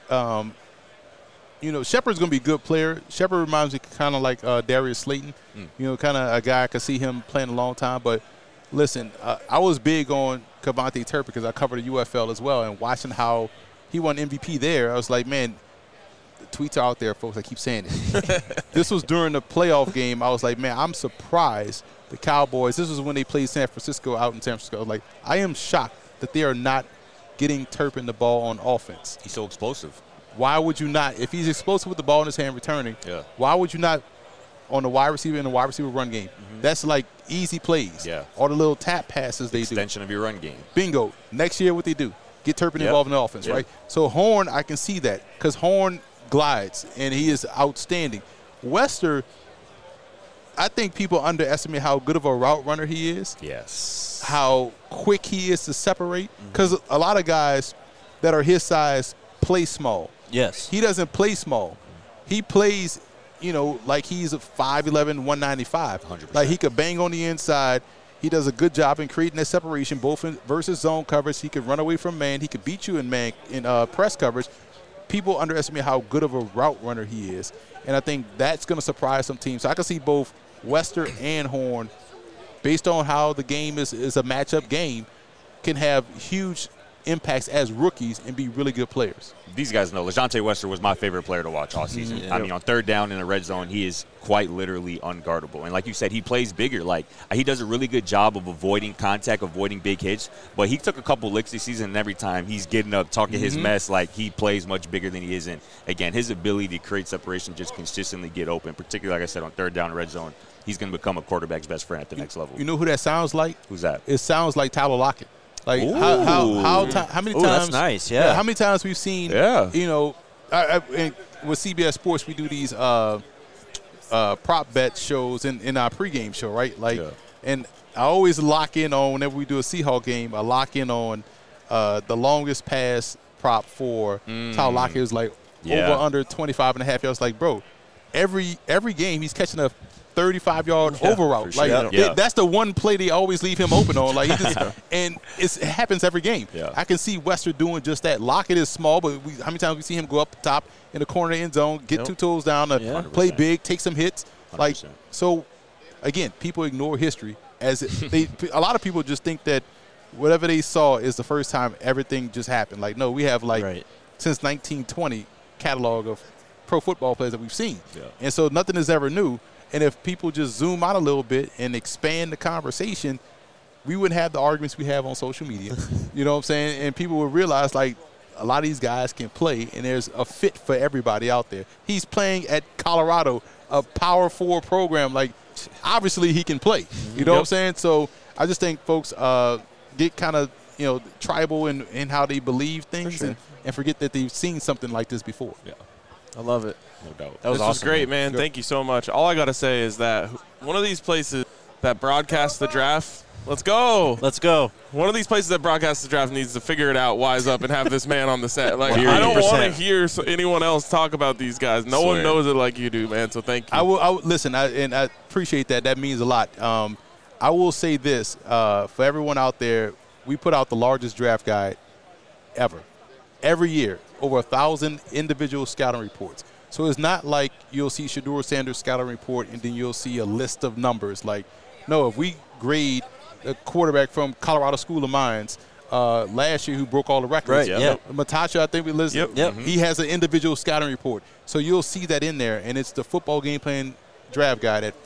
Shepard's going to be a good player. Shepard reminds me kind of like Darius Slayton. Kind of a guy I could see him playing a long time. But, listen, I was big on Kavontae Turpin because I covered the UFL as well. And watching how he won MVP there, I was like, man, the tweets are out there, folks. I keep saying it. This was during the playoff game. I was like, man, I'm surprised the Cowboys. This was when they played San Francisco out in San Francisco. I was like, I am shocked that they are not getting Turpin the ball on offense. He's so explosive. Why would you not? If he's explosive with the ball in his hand returning, why would you not on the wide receiver in the wide receiver run game? That's easy plays. Yeah. All the little tap passes they do. Extension of your run game. Bingo. Next year what they do, get Turpin involved in the offense, right? So Horn, I can see that because Horn glides, and he is outstanding. Wester, I think people underestimate how good of a route runner he is. Yes. How quick he is to separate because a lot of guys that are his size play small. Yes. He doesn't play small. He plays, like he's a 5'11", 195. 100%. Like he could bang on the inside. He does a good job in creating that separation, both in versus zone coverage. He could run away from man. He could beat you in man in press coverage. People underestimate how good of a route runner he is, and I think that's going to surprise some teams. So I can see both Wester and Horn, based on how the game is a matchup game, can have huge impacts as rookies and be really good players. These guys know LaJohntay Wester was my favorite player to watch all season. Mm-hmm. I mean, on third down in the red zone, he is quite literally unguardable. And like you said, he plays bigger. Like, he does a really good job of avoiding contact, avoiding big hits. But he took a couple licks this season, and every time he's getting up, talking his mess, like he plays much bigger than he is. And, again, his ability to create separation, just consistently get open, particularly, like I said, on third down red zone, he's going to become a quarterback's best friend at the next level. You know who that sounds like? Who's that? It sounds like Tyler Lockett. Like how many times? That's nice. Yeah. How many times we've seen? Yeah. You know, and with CBS Sports, we do these prop bet shows in our pregame show, right? Like, and I always lock in on whenever we do a Seahawks game. I lock in on the longest pass prop for Tyler Lockett. It was like over under 25.5 yards. Like, bro, every game he's catching a 35-yard over route. Sure. Like that's the one play they always leave him open on. Like, and it happens every game. Yeah. I can see Wester doing just that. Lockett is small, but how many times we see him go up top in the corner of the end zone, get 2 toes down, play big, take some hits. 100%. Like, so again, people ignore history as a lot of people just think that whatever they saw is the first time everything just happened. Like, no, we have since 1920 catalog of pro football players that we've seen, and so nothing is ever new. And if people just zoom out a little bit and expand the conversation, we wouldn't have the arguments we have on social media. You know what I'm saying? And people would realize, like, a lot of these guys can play, and there's a fit for everybody out there. He's playing at Colorado, a Power 4 program. Like, obviously he can play. You know what I'm saying? So I just think folks get kind of, tribal in how they believe things and forget that they've seen something like this before. Yeah. I love it. No doubt. That was awesome. This was great, man. Thank you so much. All I got to say is that one of these places that broadcasts the draft, let's go. Let's go. One of these places that broadcasts the draft needs to figure it out, wise up, and have this man on the set. Like, 100%. I don't want to hear anyone else talk about these guys. No one knows it like you do, man, so thank you. I will listen, and I appreciate that. That means a lot. I will say this. For everyone out there, we put out the largest draft guide ever. Every year, over 1,000 individual scouting reports. So it's not like you'll see Shedeur Sanders' scouting report and then you'll see a list of numbers. Like, no, if we grade a quarterback from Colorado School of Mines last year who broke all the records. Right, Matacha, I think we listed. He has an individual scouting report. So you'll see that in there, and it's the Football Game Plan Draft Guide at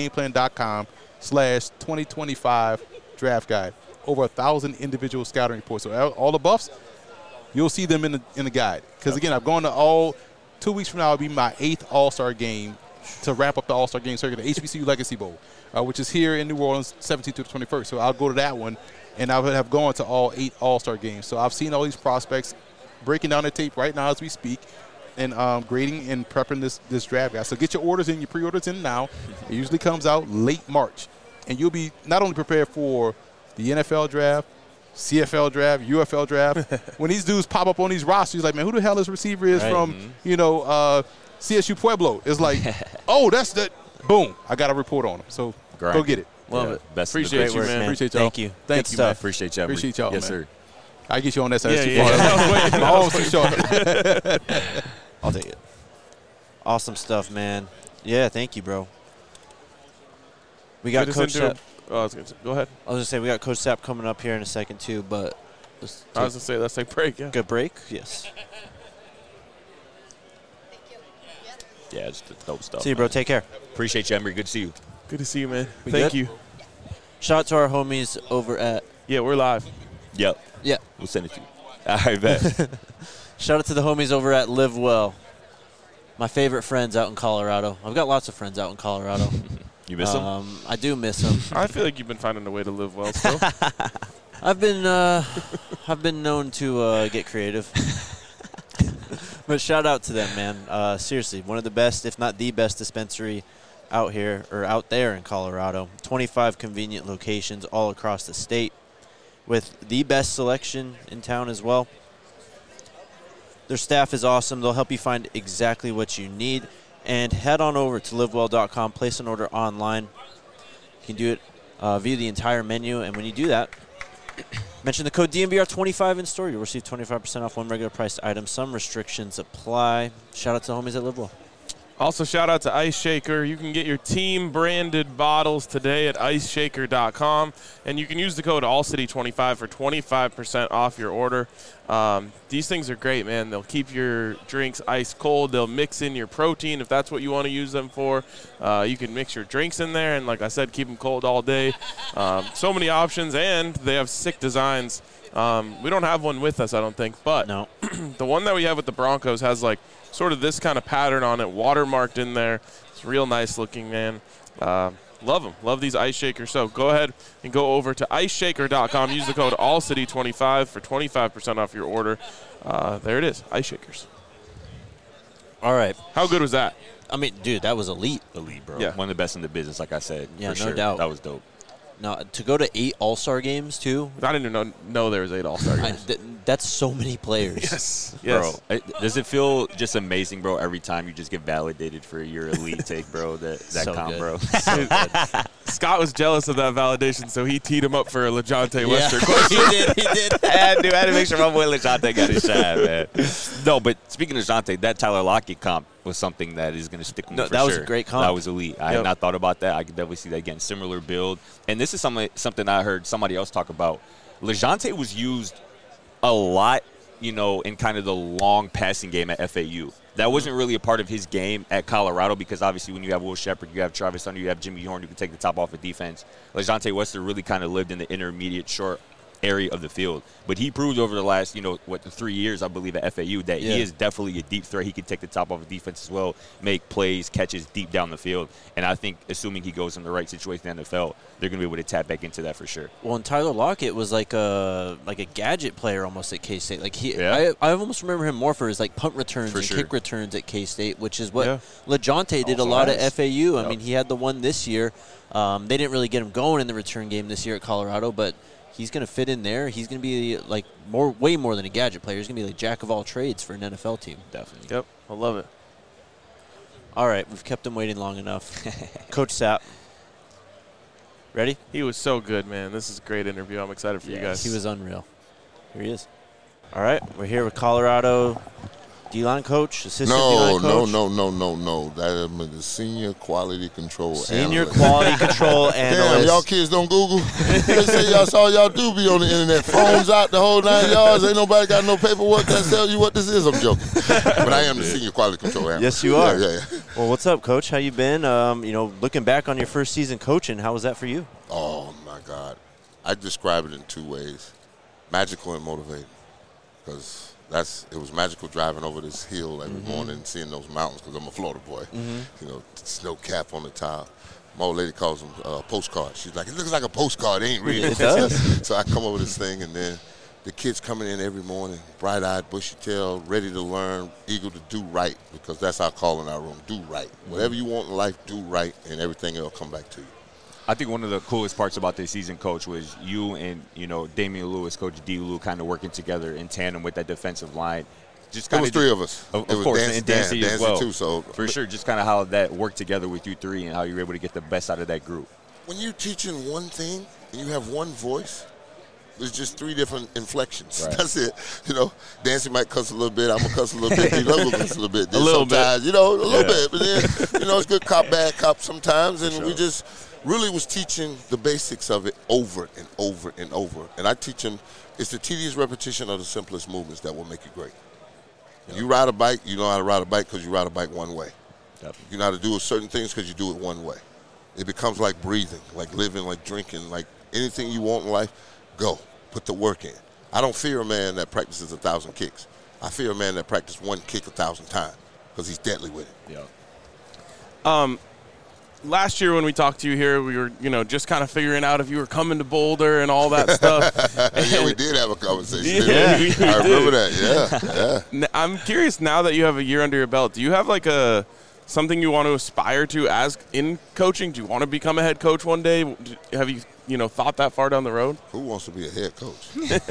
footballgameplan.com/2025 Draft Guide. Over 1,000 individual scouting reports. So all the buffs, you'll see them in the guide. Because, again, I've gone to 2 weeks from now will be my 8th All-Star game to wrap up the All-Star game circuit, the HBCU Legacy Bowl, which is here in New Orleans, 17th to the 21st. So I'll go to that one, and I would have gone to all 8 All-Star games. So I've seen all these prospects breaking down the tape right now as we speak and grading and prepping this draft guide. So get your orders in, your pre-orders in now. It usually comes out late March. And you'll be not only prepared for the NFL draft, CFL draft, UFL draft. When these dudes pop up on these rosters, like, man, who the hell this receiver is from, CSU Pueblo? It's like, oh, that's the boom. I got a report on him. So go get it. Love it. Best Appreciate you, man. Appreciate y'all. Thank you. Thank you, stuff. man. Appreciate y'all. Appreciate y'all, yes, man. sir. I get you on that side. Yeah. My arms too short. I'll take it. Awesome stuff, man. Yeah, thank you, bro. We got Coach Sapp. Go ahead. I was going to say, we got Coach Sapp coming up here in a second, too, but let's take a break, yeah. Good break? Yes. Yeah, it's the dope stuff. See you, bro. Take care. Appreciate you, Emery. Good to see you. Good to see you, man. We Thank good? you. Shout out to our homies over at... Yeah, we're live. Yep. Yeah. We'll send it to you. All right, bet. Shout out to the homies over at Live Well. My favorite friends out in Colorado. I've got lots of friends out in Colorado. You miss them? I do miss them. I feel like you've been finding a way to live well still. I've been known to get creative. But shout out to them, man. Seriously, one of the best, if not the best dispensary out here or out there in Colorado. 25 convenient locations all across the state with the best selection in town as well. Their staff is awesome. They'll help you find exactly what you need. And head on over to livewell.com, place an order online. You can do it via the entire menu. And when you do that, mention the code DNVR25 in store. You'll receive 25% off one regular priced item. Some restrictions apply. Shout out to the homies at Live Well. Also, shout out to Ice Shaker. You can get your team-branded bottles today at iceshaker.com, and you can use the code ALLCITY25 for 25% off your order. These things are great, man. They'll keep your drinks ice cold. They'll mix in your protein if that's what you want to use them for. You can mix your drinks in there, and like I said, keep them cold all day. So many options, and they have sick designs. We don't have one with us, I don't think, but No. the one that we have with the Broncos has like sort of this kind of pattern on it, watermarked in there. It's real nice looking, man. Love them. Love these Ice Shakers. So go ahead and go over to iceshaker.com. Use the code ALLCITY25 for 25% off your order. There it is, Ice Shakers. All right. How good was that? I mean, dude, that was elite. Elite, bro. Yeah. One of the best in the business, like I said. Yeah, for no sure. doubt. That was dope. Now, to go to 8 All-Star games, too, I didn't even know there was 8 All-Star games. that's so many players. Yes. Bro, does it feel just amazing, bro, every time you just get validated for your elite take, bro, that So comp, good. bro? So good. Scott was jealous of that validation, so he teed him up for a LeJontay Wester question. he did. I had to make sure my boy LeJontay got his shot, man. No, but speaking of LeJontay, that Tyler Lockett comp was something that is going to stick with me for that was sure. a great comp. That was elite. I had not thought about that. I could definitely see that again. Similar build. And this is something I heard somebody else talk about. LeJontay was used a lot, in kind of the long passing game at FAU. That wasn't really a part of his game at Colorado because obviously when you have Will Shepherd, you have Travis Hunter, you have Jimmy Horn, you can take the top off of defense. LeJontay Wester really kind of lived in the intermediate short area of the field. But he proved over the last, 3 years, I believe, at FAU that he is definitely a deep threat. He can take the top off of defense as well, make plays, catches deep down the field. And I think assuming he goes in the right situation in the NFL, they're going to be able to tap back into that for sure. Well, and Tyler Lockett was like a gadget player almost at K-State. Like Yeah. I almost remember him more for his like punt returns For and sure. kick returns at K-State, which is what Yeah. LeJontay did a Also lot has. at FAU. I Yep. mean, he had the one this year. They didn't really get him going in the return game this year at Colorado, but he's going to fit in there. He's going to be like way more than a gadget player. He's going to be like jack of all trades for an NFL team. Definitely. Yep, I love it. All right, we've kept him waiting long enough. Coach Sapp, ready? He was so good, man. This is a great interview. I'm excited for you guys. He was unreal. Here he is. All right, we're here with Colorado D-line coach, assistant D-line coach. No. That is the senior quality control Senior analyst. quality control analyst. Damn, y'all kids don't Google. They say y'all saw y'all do be on the internet. Phones out the whole 9 yards. Ain't nobody got no paperwork that tell you what this is. I'm joking. But I am the senior quality control analyst. Yes, you are. Yeah. Well, what's up, Coach? How you been? Looking back on your first season coaching, how was that for you? Oh, my God. I describe it in 2 ways, magical and motivating. Because it was magical driving over this hill every morning and seeing those mountains because I'm a Florida boy. Snow cap on the top. My old lady calls them postcards. She's like, it looks like a postcard. It ain't real. It does. So I come over this thing, and then the kids coming in every morning, bright-eyed, bushy-tailed, ready to learn, eager to do right, because that's our call in our room, do right. Whatever you want in life, do right, and everything else will come back to you. I think one of the coolest parts about this season, Coach, was you and, Damian Lewis, Coach D. Lou, kind of working together in tandem with that defensive line. Just It was 3 of us. Of it was course, Dancy, and Dancy as well. too. So for sure, just kind of how that worked together with you 3 and how you were able to get the best out of that group. when you're teaching one thing and you have one voice, there's just 3 different inflections. Right. That's it. Dancy might cuss a little bit. I'm going to cuss a little bit. D-Love will cuss a little bit. A little bit. Sometimes, a little bit. But then, it's good cop, bad cop sometimes. And we just really was teaching the basics of it over and over and over. And I teach them, it's the tedious repetition of the simplest movements that will make you great. You ride a bike, you know how to ride a bike because you ride a bike one way. Definitely. You know how to do certain things because you do it one way. It becomes like breathing, like living, like drinking, like anything you want in life, go. Put the work in. I don't fear a man that practices 1,000 kicks. I fear a man that practices one kick 1,000 times because he's deadly with it. Yeah. Last year when we talked to you here, we were, just kind of figuring out if you were coming to Boulder and all that stuff. Yeah, we did have a conversation. Yeah, didn't we? we I remember did. that. Yeah. I'm curious now that you have a year under your belt, do you have like something you want to aspire to as in coaching? Do you want to become a head coach one day? Have you, thought that far down the road? Who wants to be a head coach?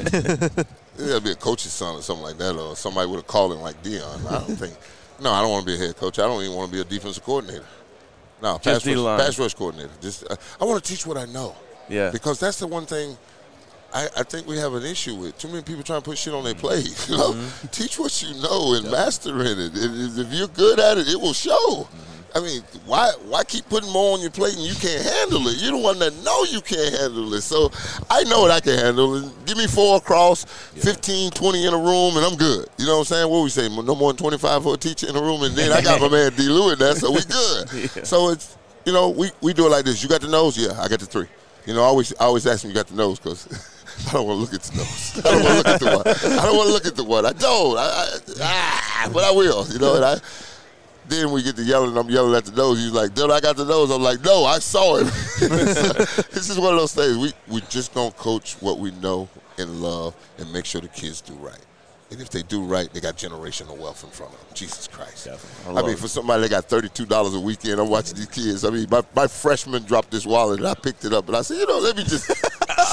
It got to be a coach's son or something like that, or somebody with a calling like Dion. I don't want to be a head coach. I don't even want to be a defensive coordinator. No, pass rush coordinator. I want to teach what I know. Yeah. Because that's the one thing I think we have an issue with too many people trying to put shit on their plate. You know, teach what you know and master in it. If you're good at it, it will show. I mean, why keep putting more on your plate and you can't handle it? You're the one that know you can't handle it. So I know what I can handle. And give me 4 across, 15, 20 in a room, and I'm good. You know what I'm saying? What we say? No more than 25 for a teacher in a room, and then I got my man D. Lou in there, so we good. So it's, you know, we do it like this. You got the nose? Yeah, I got the 3. You know, I always ask them, you got the nose, because I don't want to look at the nose. I don't want to look at the one. I don't want to look at the one. I don't. But I will. You know, and then we get to yelling, I'm yelling at the nose. He's like, dude, I got the nose. I'm like, no, I saw him. This is one of those things. We just going to coach what we know and love and make sure the kids do right. And if they do right, they got generational wealth in front of them. Jesus Christ. I mean, for somebody that got $32 a weekend, I'm watching these kids. I mean, my freshman dropped this wallet, and I picked it up. And I said, you know, let me just –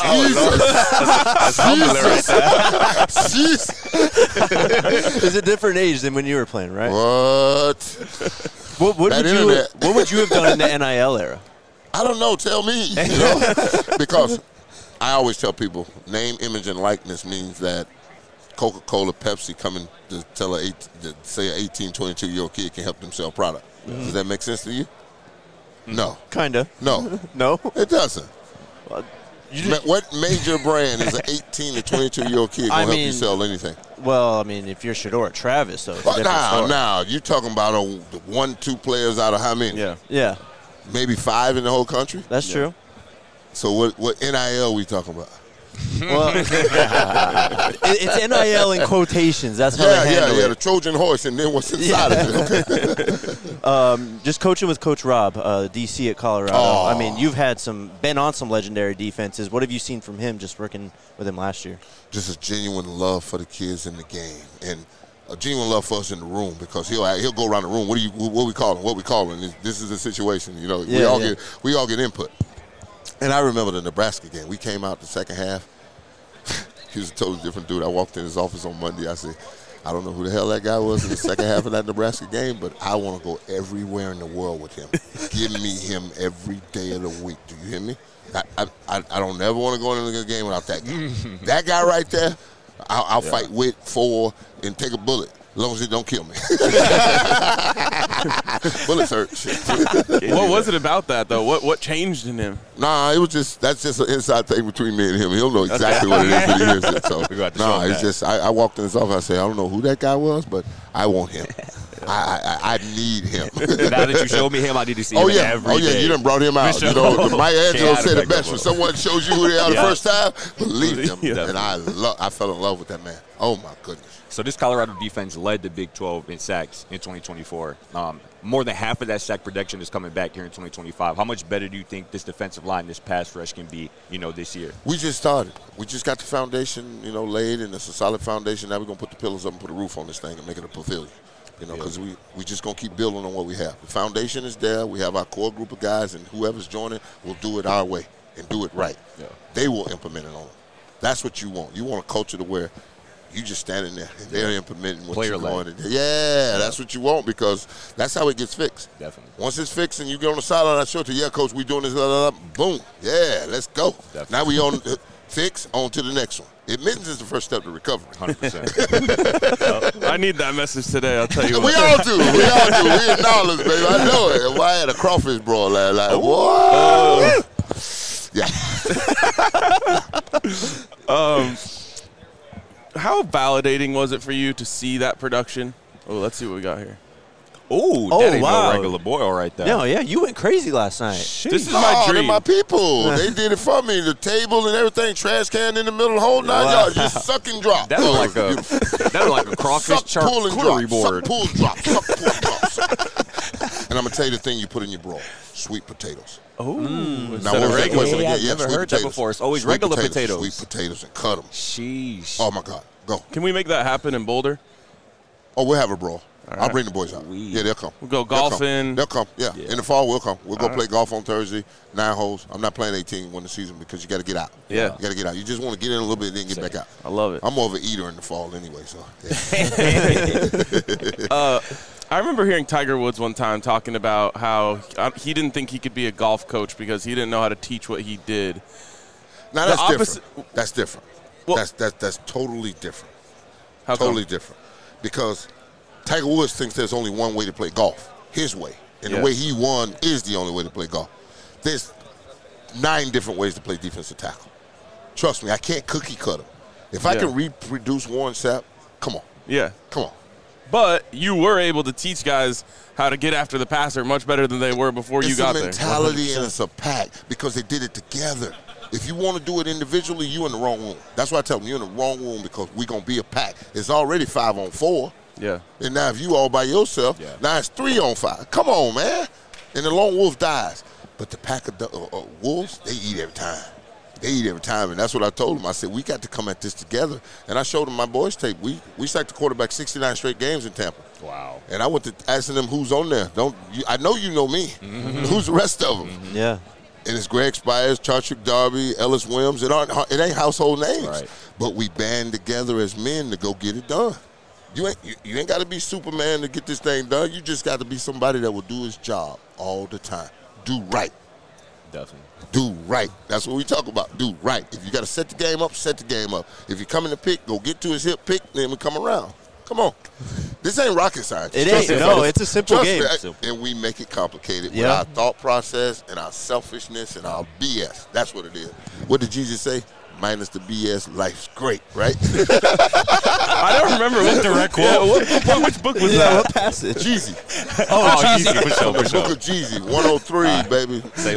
Jesus. It's a different age than when you were playing, right? What would you have done in the NIL era? I don't know. Tell me. You know? Because I always tell people, name, image, and likeness means that Coca-Cola, Pepsi coming to tell say an 18, 22-year-old kid can help them sell product. Does that make sense to you? No. Kinda. No. No? It doesn't. What major brand is an 18 to 22-year-old kid going to help you sell anything? Well, I mean, if you're Shedeur Travis, though, it's a different story. Now, you're talking about 1-2 players out of how many? Yeah. Maybe 5 in the whole country? That's true. So what NIL we talking about? Well, it's NIL in quotations. That's how they handle it. The Trojan horse, and then what's inside of it. Just coaching with Coach Rob, DC at Colorado. I mean, you've been on some legendary defenses. What have you seen from him just working with him last year? Just a genuine love for the kids in the game, and a genuine love for us in the room, because he'll go around the room. What we calling? This is the situation. You know, we all get input. And I remember the Nebraska game. We came out the second half. He was a totally different dude. I walked in his office on Monday. I said, I don't know who the hell that guy was in the second half of that Nebraska game, but I want to go everywhere in the world with him. Give me him every day of the week. Do you hear me? I don't ever want to go into a game without that guy. That guy right there, I'll fight with, for, and take a bullet. As long as it don't kill me. Bullets hurt. What was it about that, though? What changed in him? Nah, it was that's just an inside thing between me and him. He'll know exactly what it is when he hears it. So, it's just I walked in his office. I said, I don't know who that guy was, but I want him. I need him. Now that you showed me him, I need to see him every day. You done brought him out. You know, Mike Angelo said it best. When someone shows you who they are the first time, believe them. And I fell in love with that man. Oh, my goodness. So this Colorado defense led the Big 12 in sacks in 2024. More than half of that sack production is coming back here in 2025. How much better do you think this defensive line, this pass rush can be, this year? We just started. We just got the foundation, laid, and it's a solid foundation. Now we're going to put the pillars up and put a roof on this thing and make it a pavilion. Because we just going to keep building on what we have. The foundation is there. We have our core group of guys, and whoever's joining will do it our way and do it right. Yeah. They will implement it on them. That's what you want. You want a culture to where you just standing there and they're implementing what you're going. That's what you want, because that's how it gets fixed. Definitely. Once it's fixed and you get on the sideline, I show it to you, coach, we doing this, boom. Yeah, let's go. Definitely. Now we on fix, on to the next one. Admittance is the first step to recovery. 100%. I need that message today, I'll tell you what. We all do. We acknowledge, baby. I know it. Why I had a crawfish brawl last night. What? Yeah. How validating was it for you to see that production? Oh, let's see what we got here. That ain't no regular boy right there. No, you went crazy last night. This is my dream. They're my people. They did it for me. The table and everything, trash can in the middle, the whole 9 yards. Just suck and drop. That was like a crawfish charcuterie board. Suck, pull, drop. Suck, pull, drop. And I'm going to tell you the thing you put in your broil. Sweet potatoes. Oh, now what regular? I've never heard that before. It's always regular potatoes. Sweet potatoes, and cut them. Sheesh. Oh, my God. Go. Can we make that happen in Boulder? Oh, we'll have a brawl. Right. I'll bring the boys out. Yeah, they'll come. We'll go golfing. They'll come. Yeah. In the fall, we'll come. We'll go play golf on Thursday, 9 holes. I'm not playing 18 when the season, because you got to get out. Yeah. You got to get out. You just want to get in a little bit and then get back out. I love it. I'm more of an eater in the fall anyway, so. Yeah. I remember hearing Tiger Woods one time talking about how he didn't think he could be a golf coach because he didn't know how to teach what he did. Now the that's opposite. different. That's different. Well- That's totally different. How come? Totally different. Because Tiger Woods thinks there's only one way to play golf, his way. And the way he won is the only way to play golf. There's 9 different ways to play defensive tackle. Trust me, I can't cookie cut him. If I can reproduce Warren Sapp, come on. Yeah. Come on. But you were able to teach guys how to get after the passer much better than they were before you got there. It's a mentality and it's a pack because they did it together. If you want to do it individually, you're in the wrong room. That's why I tell them you're in the wrong room because we're going to be a pack. It's already 5-on-4. Yeah. And now if you all by yourself, now it's 3-on-5. Come on, man. And the lone wolf dies. But the pack of wolves, they eat every time. They eat every time, and that's what I told them. I said, we got to come at this together. And I showed them my boys' tape. We sacked the quarterback 69 straight games in Tampa. Wow. And I went to asking them who's on there. I know you know me. Who's the rest of them? Yeah. And it's Greg Spires, Chartrick Darby, Ellis Williams. It ain't household names. Right. But we band together as men to go get it done. You ain't got to be Superman to get this thing done. You just got to be somebody that will do his job all the time. Do right. Definitely. Do right. That's what we talk about. Do right. If you got to set the game up, set the game up. If you come in to pick, go get to his hip, pick, then we come around. Come on. This ain't rocket science. It ain't. No, it's a simple game. And we make it complicated with our thought process and our selfishness and our BS. That's what it is. What did Jesus say? Minus the BS, life's great, right? I don't remember what direct quote. Which book was that? What passage? Jeezy. Oh, Jeezy, for sure, for The sure. book of Jeezy, 103, baby. Say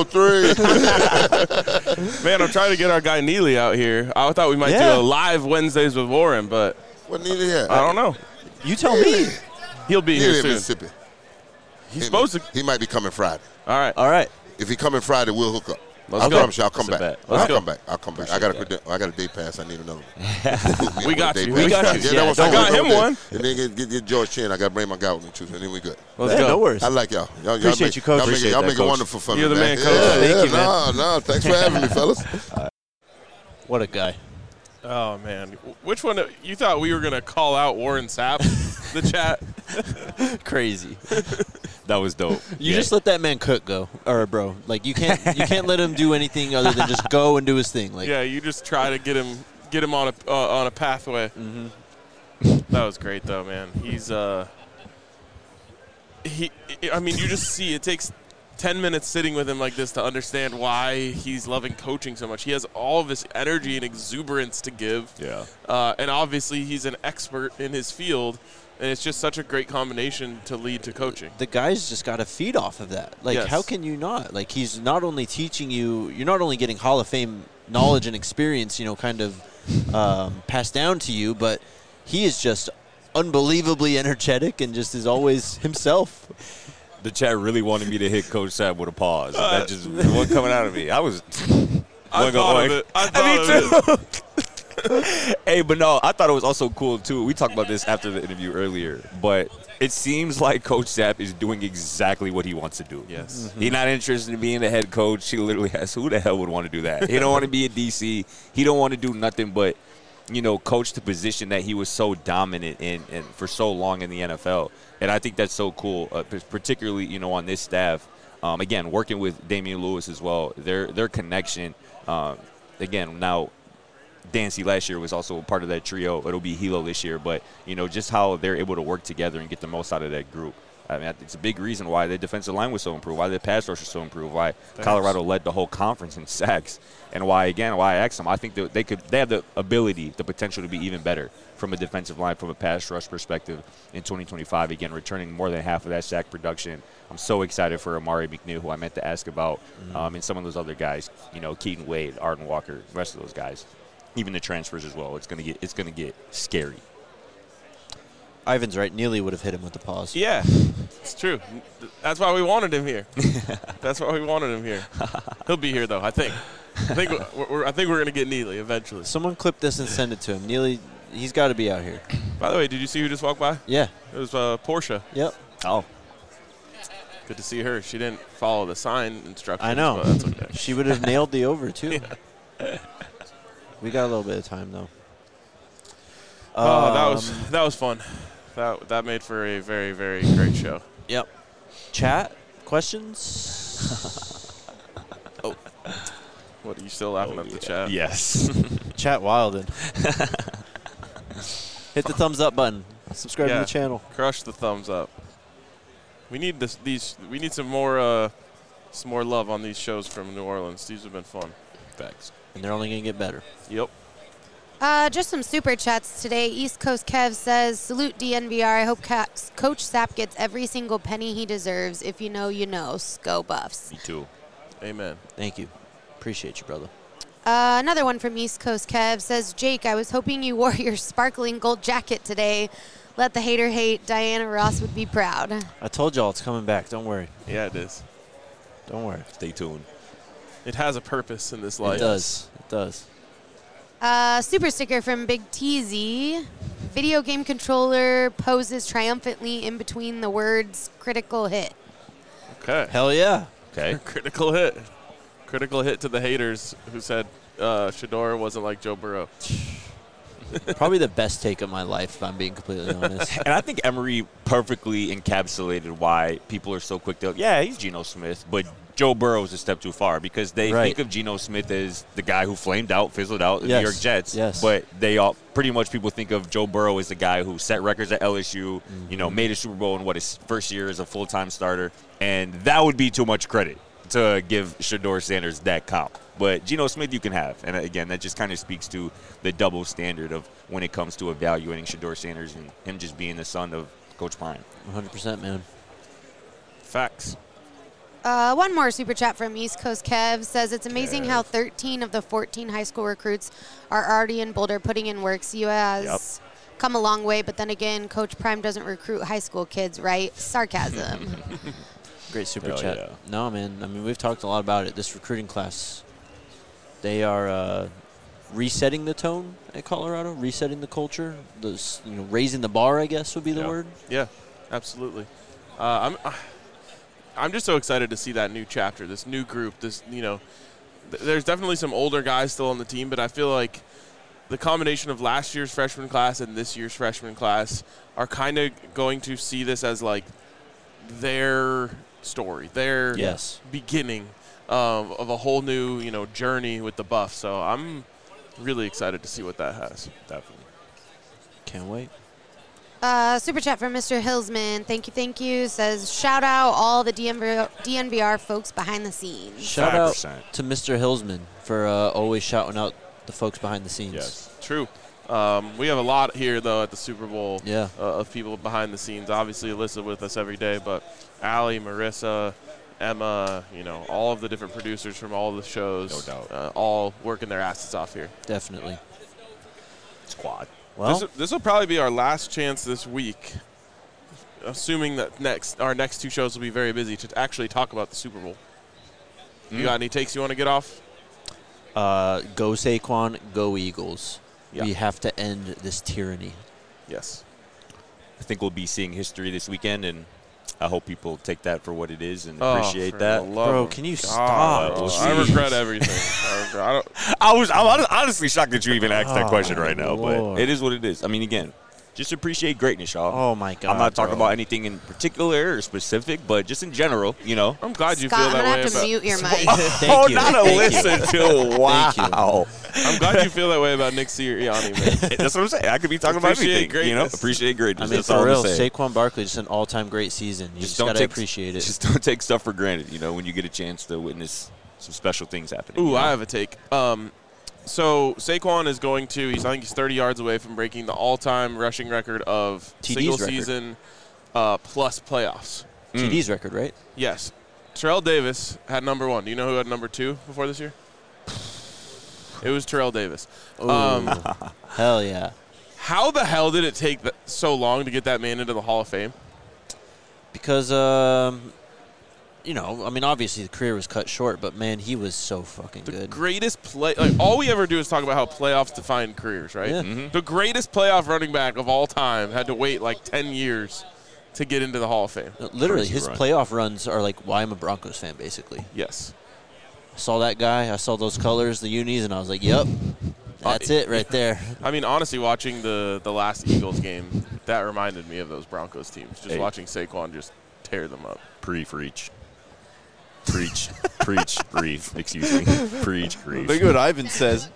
103. Man, I'm trying to get our guy Neely out here. I thought we might do a live Wednesdays with Warren, but What needed here? I don't know. You tell me. He'll be He here in soon. Mississippi. He's supposed to. He might be coming Friday. All right. All right. If he coming Friday, we'll hook up. Let's I go. promise you, I'll come That's a back. bet. I'll come back. I'll come back. I got a day pass. I need another one. We got you. We got you. Yeah, that was I got him one. And then get George Chin. I got to bring my guy with me too. And then we good. Let's Yeah, go. no worries. I like y'all. Y'all Appreciate make, you, Coach. Y'all make, Appreciate y'all that, make it Coach. wonderful for me, You're the man, Coach. Yeah, Thank yeah, you, man. No, thanks for having me, fellas. What a guy. Oh, man. Which one? You thought we were going to call out Warren Sapp, the chat? Crazy. That was dope. You just let that man cook go, or bro. Like you can't let him do anything other than just go and do his thing. Like Yeah, you just try to get him on a pathway. Mm-hmm. That was great, though, man. He's I mean, you just see it takes 10 minutes sitting with him like this to understand why he's loving coaching so much. He has all of this energy and exuberance to give. Yeah. And obviously he's an expert in his field, and it's just such a great combination to lead to coaching. the guy's just got to feed off of that. Like, Yes. how can you not? Like, he's not only teaching you, you're not only getting Hall of Fame knowledge and experience, kind of passed down to you, but he is just unbelievably energetic and just is always himself. The chat really wanted me to hit Coach Sapp with a pause. That just wasn't coming out of me. I was. I thought of it. Hey, but no, I thought it was also cool, too. We talked about this after the interview earlier, but it seems like Coach Sapp is doing exactly what he wants to do. Yes. He's not interested in being the head coach. He literally has, who the hell would want to do that? He don't want to be a DC. He don't want to do nothing but, coach the position that he was so dominant in and for so long in the NFL. And I think that's so cool, particularly, on this staff. Again, working with Damian Lewis as well, their connection, again, now Dancy last year was also a part of that trio. It'll be Hilo this year, but just how they're able to work together and get the most out of that group. I mean, it's a big reason why the defensive line was so improved, why the pass rush was so improved, why Colorado led the whole conference in sacks, and why I asked them. I think that they have the ability, the potential to be even better from a defensive line, from a pass rush perspective in 2025. Again, returning more than half of that sack production. I'm so excited for Amari McNeil, who I meant to ask about, and some of those other guys. Keaton Wade, Arden Walker, the rest of those guys. Even the transfers as well. It's gonna get scary. Ivan's right. Neely would have hit him with the pause. Yeah, it's true. That's why we wanted him here. That's why we wanted him here. He'll be here, though, I think. I think we're going to get Neely eventually. Someone clip this and send it to him. Neely, he's got to be out here. By the way, did you see who just walked by? Yeah. It was Portia. Yep. Oh. Good to see her. She didn't follow the sign instructions. I know. But that's okay. She would have nailed the over, too. We got a little bit of time, though. That was fun. That made for a very, very great show. Yep. Chat? Questions? Oh. What, are you still laughing at the chat? Yes. Chat wildin'. Hit the thumbs up button. Subscribe to the channel. Crush the thumbs up. We need we need some more love on these shows from New Orleans. These have been fun. Facts. And they're only going to get better. Yep. Just some super chats today. East Coast Kev says, salute DNVR. I hope Coach Sapp gets every single penny he deserves. If you know, you know. Go Buffs. Me too. Amen. Thank you. Appreciate you, brother. Another one from East Coast Kev says, Jake, I was hoping you wore your sparkling gold jacket today. Let the hater hate. Diana Ross would be proud. I told y'all it's coming back. Don't worry. Yeah, it is. Don't worry. Stay tuned. It has a purpose in this life. It does. It does. Super sticker from Big TZ. Video game controller poses triumphantly in between the words critical hit. Okay. Hell yeah. Okay. Critical hit. Critical hit to the haters who said Shedeur wasn't like Joe Burrow. Probably the best take of my life, if I'm being completely honest. And I think Emery perfectly encapsulated why people are so quick to, yeah, he's Geno Smith, but Joe Burrow is a step too far because they think of Geno Smith as the guy who flamed out, fizzled out the New York Jets. Yes. But they all pretty much people think of Joe Burrow as the guy who set records at LSU, made a Super Bowl in his first year as a full-time starter, and that would be too much credit to give Shedeur Sanders that comp. But Geno Smith you can have. And again, that just kind of speaks to the double standard of when it comes to evaluating Shedeur Sanders and him just being the son of Coach Prime. 100%, man. Facts. One more super chat from East Coast Kev says, it's amazing how 13 of the 14 high school recruits are already in Boulder putting in work. CU has come a long way, but then again, Coach Prime doesn't recruit high school kids, right? Sarcasm. Great super Hell chat. yeah. No, man. I mean, we've talked a lot about it. This recruiting class, they are resetting the tone at Colorado, resetting the culture, raising the bar, I guess would be the word. Yeah, absolutely. I'm just so excited to see that new chapter, this new group. There's definitely some older guys still on the team, but I feel like the combination of last year's freshman class and this year's freshman class are kind of going to see this as like their story, their beginning of a whole new, journey with the Buffs. So I'm really excited to see what that has. Definitely. Can't wait. Super chat from Mr. Hillsman. Thank you. Says, shout out all the DNVR folks behind the scenes. Shout out 5%. to Mr. Hillsman for always shouting out the folks behind the scenes. Yes, true. We have a lot here, though, at the Super Bowl of people behind the scenes. Obviously, Alyssa with us every day, but Allie, Marissa, Emma, all of the different producers from all the shows, no doubt, all working their asses off here. Definitely. Squad. Well, this will probably be our last chance this week, assuming that our next two shows will be very busy, to actually talk about the Super Bowl. You got any takes you want to get off? Go Saquon, go Eagles. Yeah. We have to end this tyranny. Yes. I think we'll be seeing history this weekend, and I hope people take that for what it is and appreciate that. Bro, can you stop? I regret everything. I'm honestly shocked that you even asked that question right now, Lord. but it is what it is. I mean, again, just appreciate greatness, y'all. Oh, my God. I'm not talking about anything in particular or specific, but just in general, I'm glad you Scott, feel I'm that going to way have to about. mute your mic. Thank you. not a Thank listen to. Wow. Thank you. I'm glad you feel that way about Nick Sirianni, man. That's what I'm saying. I could be talking about Appreciate everything. greatness. Appreciate greatness. I mean, That's for all real, I'm saying. Saquon Barkley, just an all-time great season. You just got to appreciate it. Just don't take stuff for granted, when you get a chance to witness some special things happening. Ooh, I have a take. So Saquon is going to, I think he's 30 yards away from breaking the all-time rushing record of TD's single record. season plus playoffs. TD's record, right? Yes. Terrell Davis had number 1. Do you know who had number 2 before this year? It was Terrell Davis. Hell yeah. How the hell did it take so long to get that man into the Hall of Fame? Because, obviously the career was cut short, but, man, he was so fucking good. Greatest play. All we ever do is talk about how playoffs define careers, right? Yeah. Mm-hmm. The greatest playoff running back of all time had to wait 10 years to get into the Hall of Fame. Literally, Crazy his run. playoff runs are like why I'm a Broncos fan, basically. Yes. I saw that guy. I saw those colors, the unis, and I was like, yep, that's it right there. I mean, honestly, watching the last Eagles game, that reminded me of those Broncos teams. Just watching Saquon just tear them up. Preach. Preach grief. Excuse me. Preach grief. Look at what Ivan says.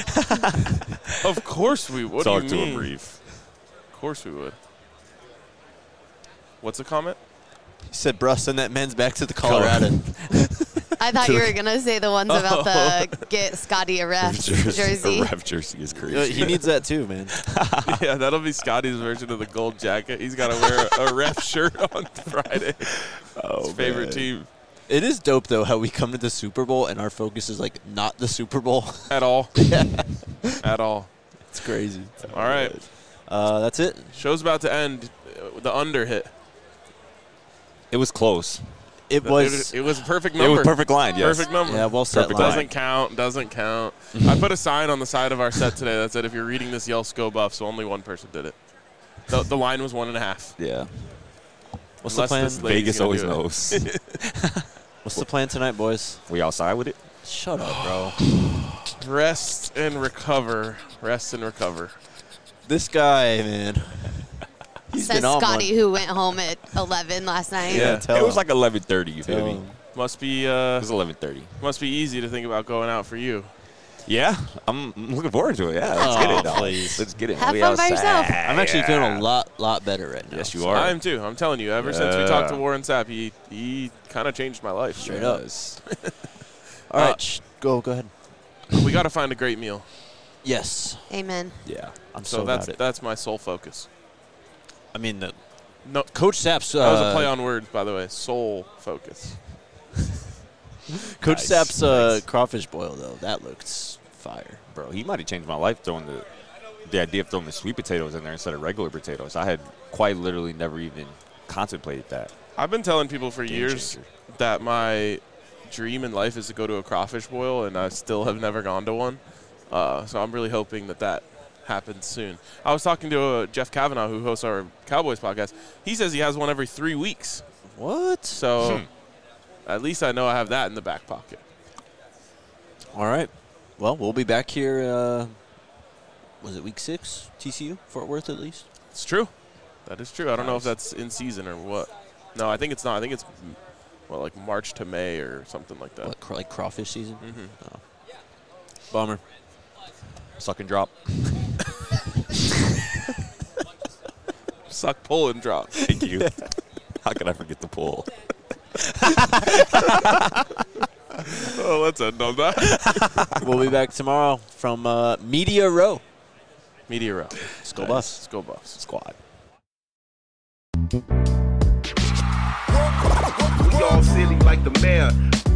Of course we would. Talk to him brief. Of course we would. What's the comment? He said, bruh, send that men's back to the Colorado. I thought you were going to say the ones about the get Scotty a ref jersey. A ref jersey is crazy. He needs that too, man. Yeah, that'll be Scotty's version of the gold jacket. He's got to wear a ref shirt on Friday. His favorite team. It is dope, though, how we come to the Super Bowl and our focus is, like, not the Super Bowl. At all. Yeah. At all. It's crazy. All right. That's it. Show's about to end. The under hit. It was close. It was a perfect number. It was perfect line, yes. Perfect number. Yeah, well set. Perfect line. Doesn't count. I put a sign on the side of our set today that said, if you're reading this, yell Sco Buff, so only one person did it. The line was 1.5. Yeah. What's the plan? Vegas always knows. What's the plan tonight, boys? We outside with it? Shut up, bro. Rest and recover. Rest and recover. This guy, man. He's Says been on Scotty, one. who went home at 11 last night. Yeah. It was like 11:30, you feel me? Must be It was 11:30. must be easy to think about going out for you. Yeah, I'm looking forward to it. Yeah, let's get it. Dog. Please. Let's get it. Have We fun by outside. yourself. I'm actually feeling a lot better right now. Yes, you are. I am too. I'm telling you, ever since we talked to Yeah. Warren Sapp, he kind of changed my life. Straight up. Yes. All right, go ahead. We got to find a great meal. Yes. Amen. Yeah. I'm So so that's about it. that's my sole focus. I mean, No, Coach Sapp's that was a play on words, by the way. Sole focus. Coach Nice, Sapp's crawfish boil though. That looks fire. Bro, he might have changed my life throwing the idea of throwing the sweet potatoes in there instead of regular potatoes. I had quite literally never even contemplated that. I've been telling people for Game years changer. that my dream in life is to go to a crawfish boil, and I still have never gone to one. So I'm really hoping that happens soon. I was talking to Jeff Kavanaugh, who hosts our Cowboys podcast. He says he has one every 3 weeks. What? So at least I know I have that in the back pocket. All right. Well, we'll be back here. Was it week 6? TCU, Fort Worth, at least. It's true. That is true. I don't know if that's in season or what. No, I think it's not. I think it's like March to May or something like that. What, like crawfish season? Mm-hmm. Oh. Bummer. Suck and drop. Suck, pull, and drop. Thank you. How could I forget the pull? Oh, let's end on that. We'll be back tomorrow from Media Row. Media Row. Skull Buffs. Skull Buffs. Squad. We all silly like the mayor.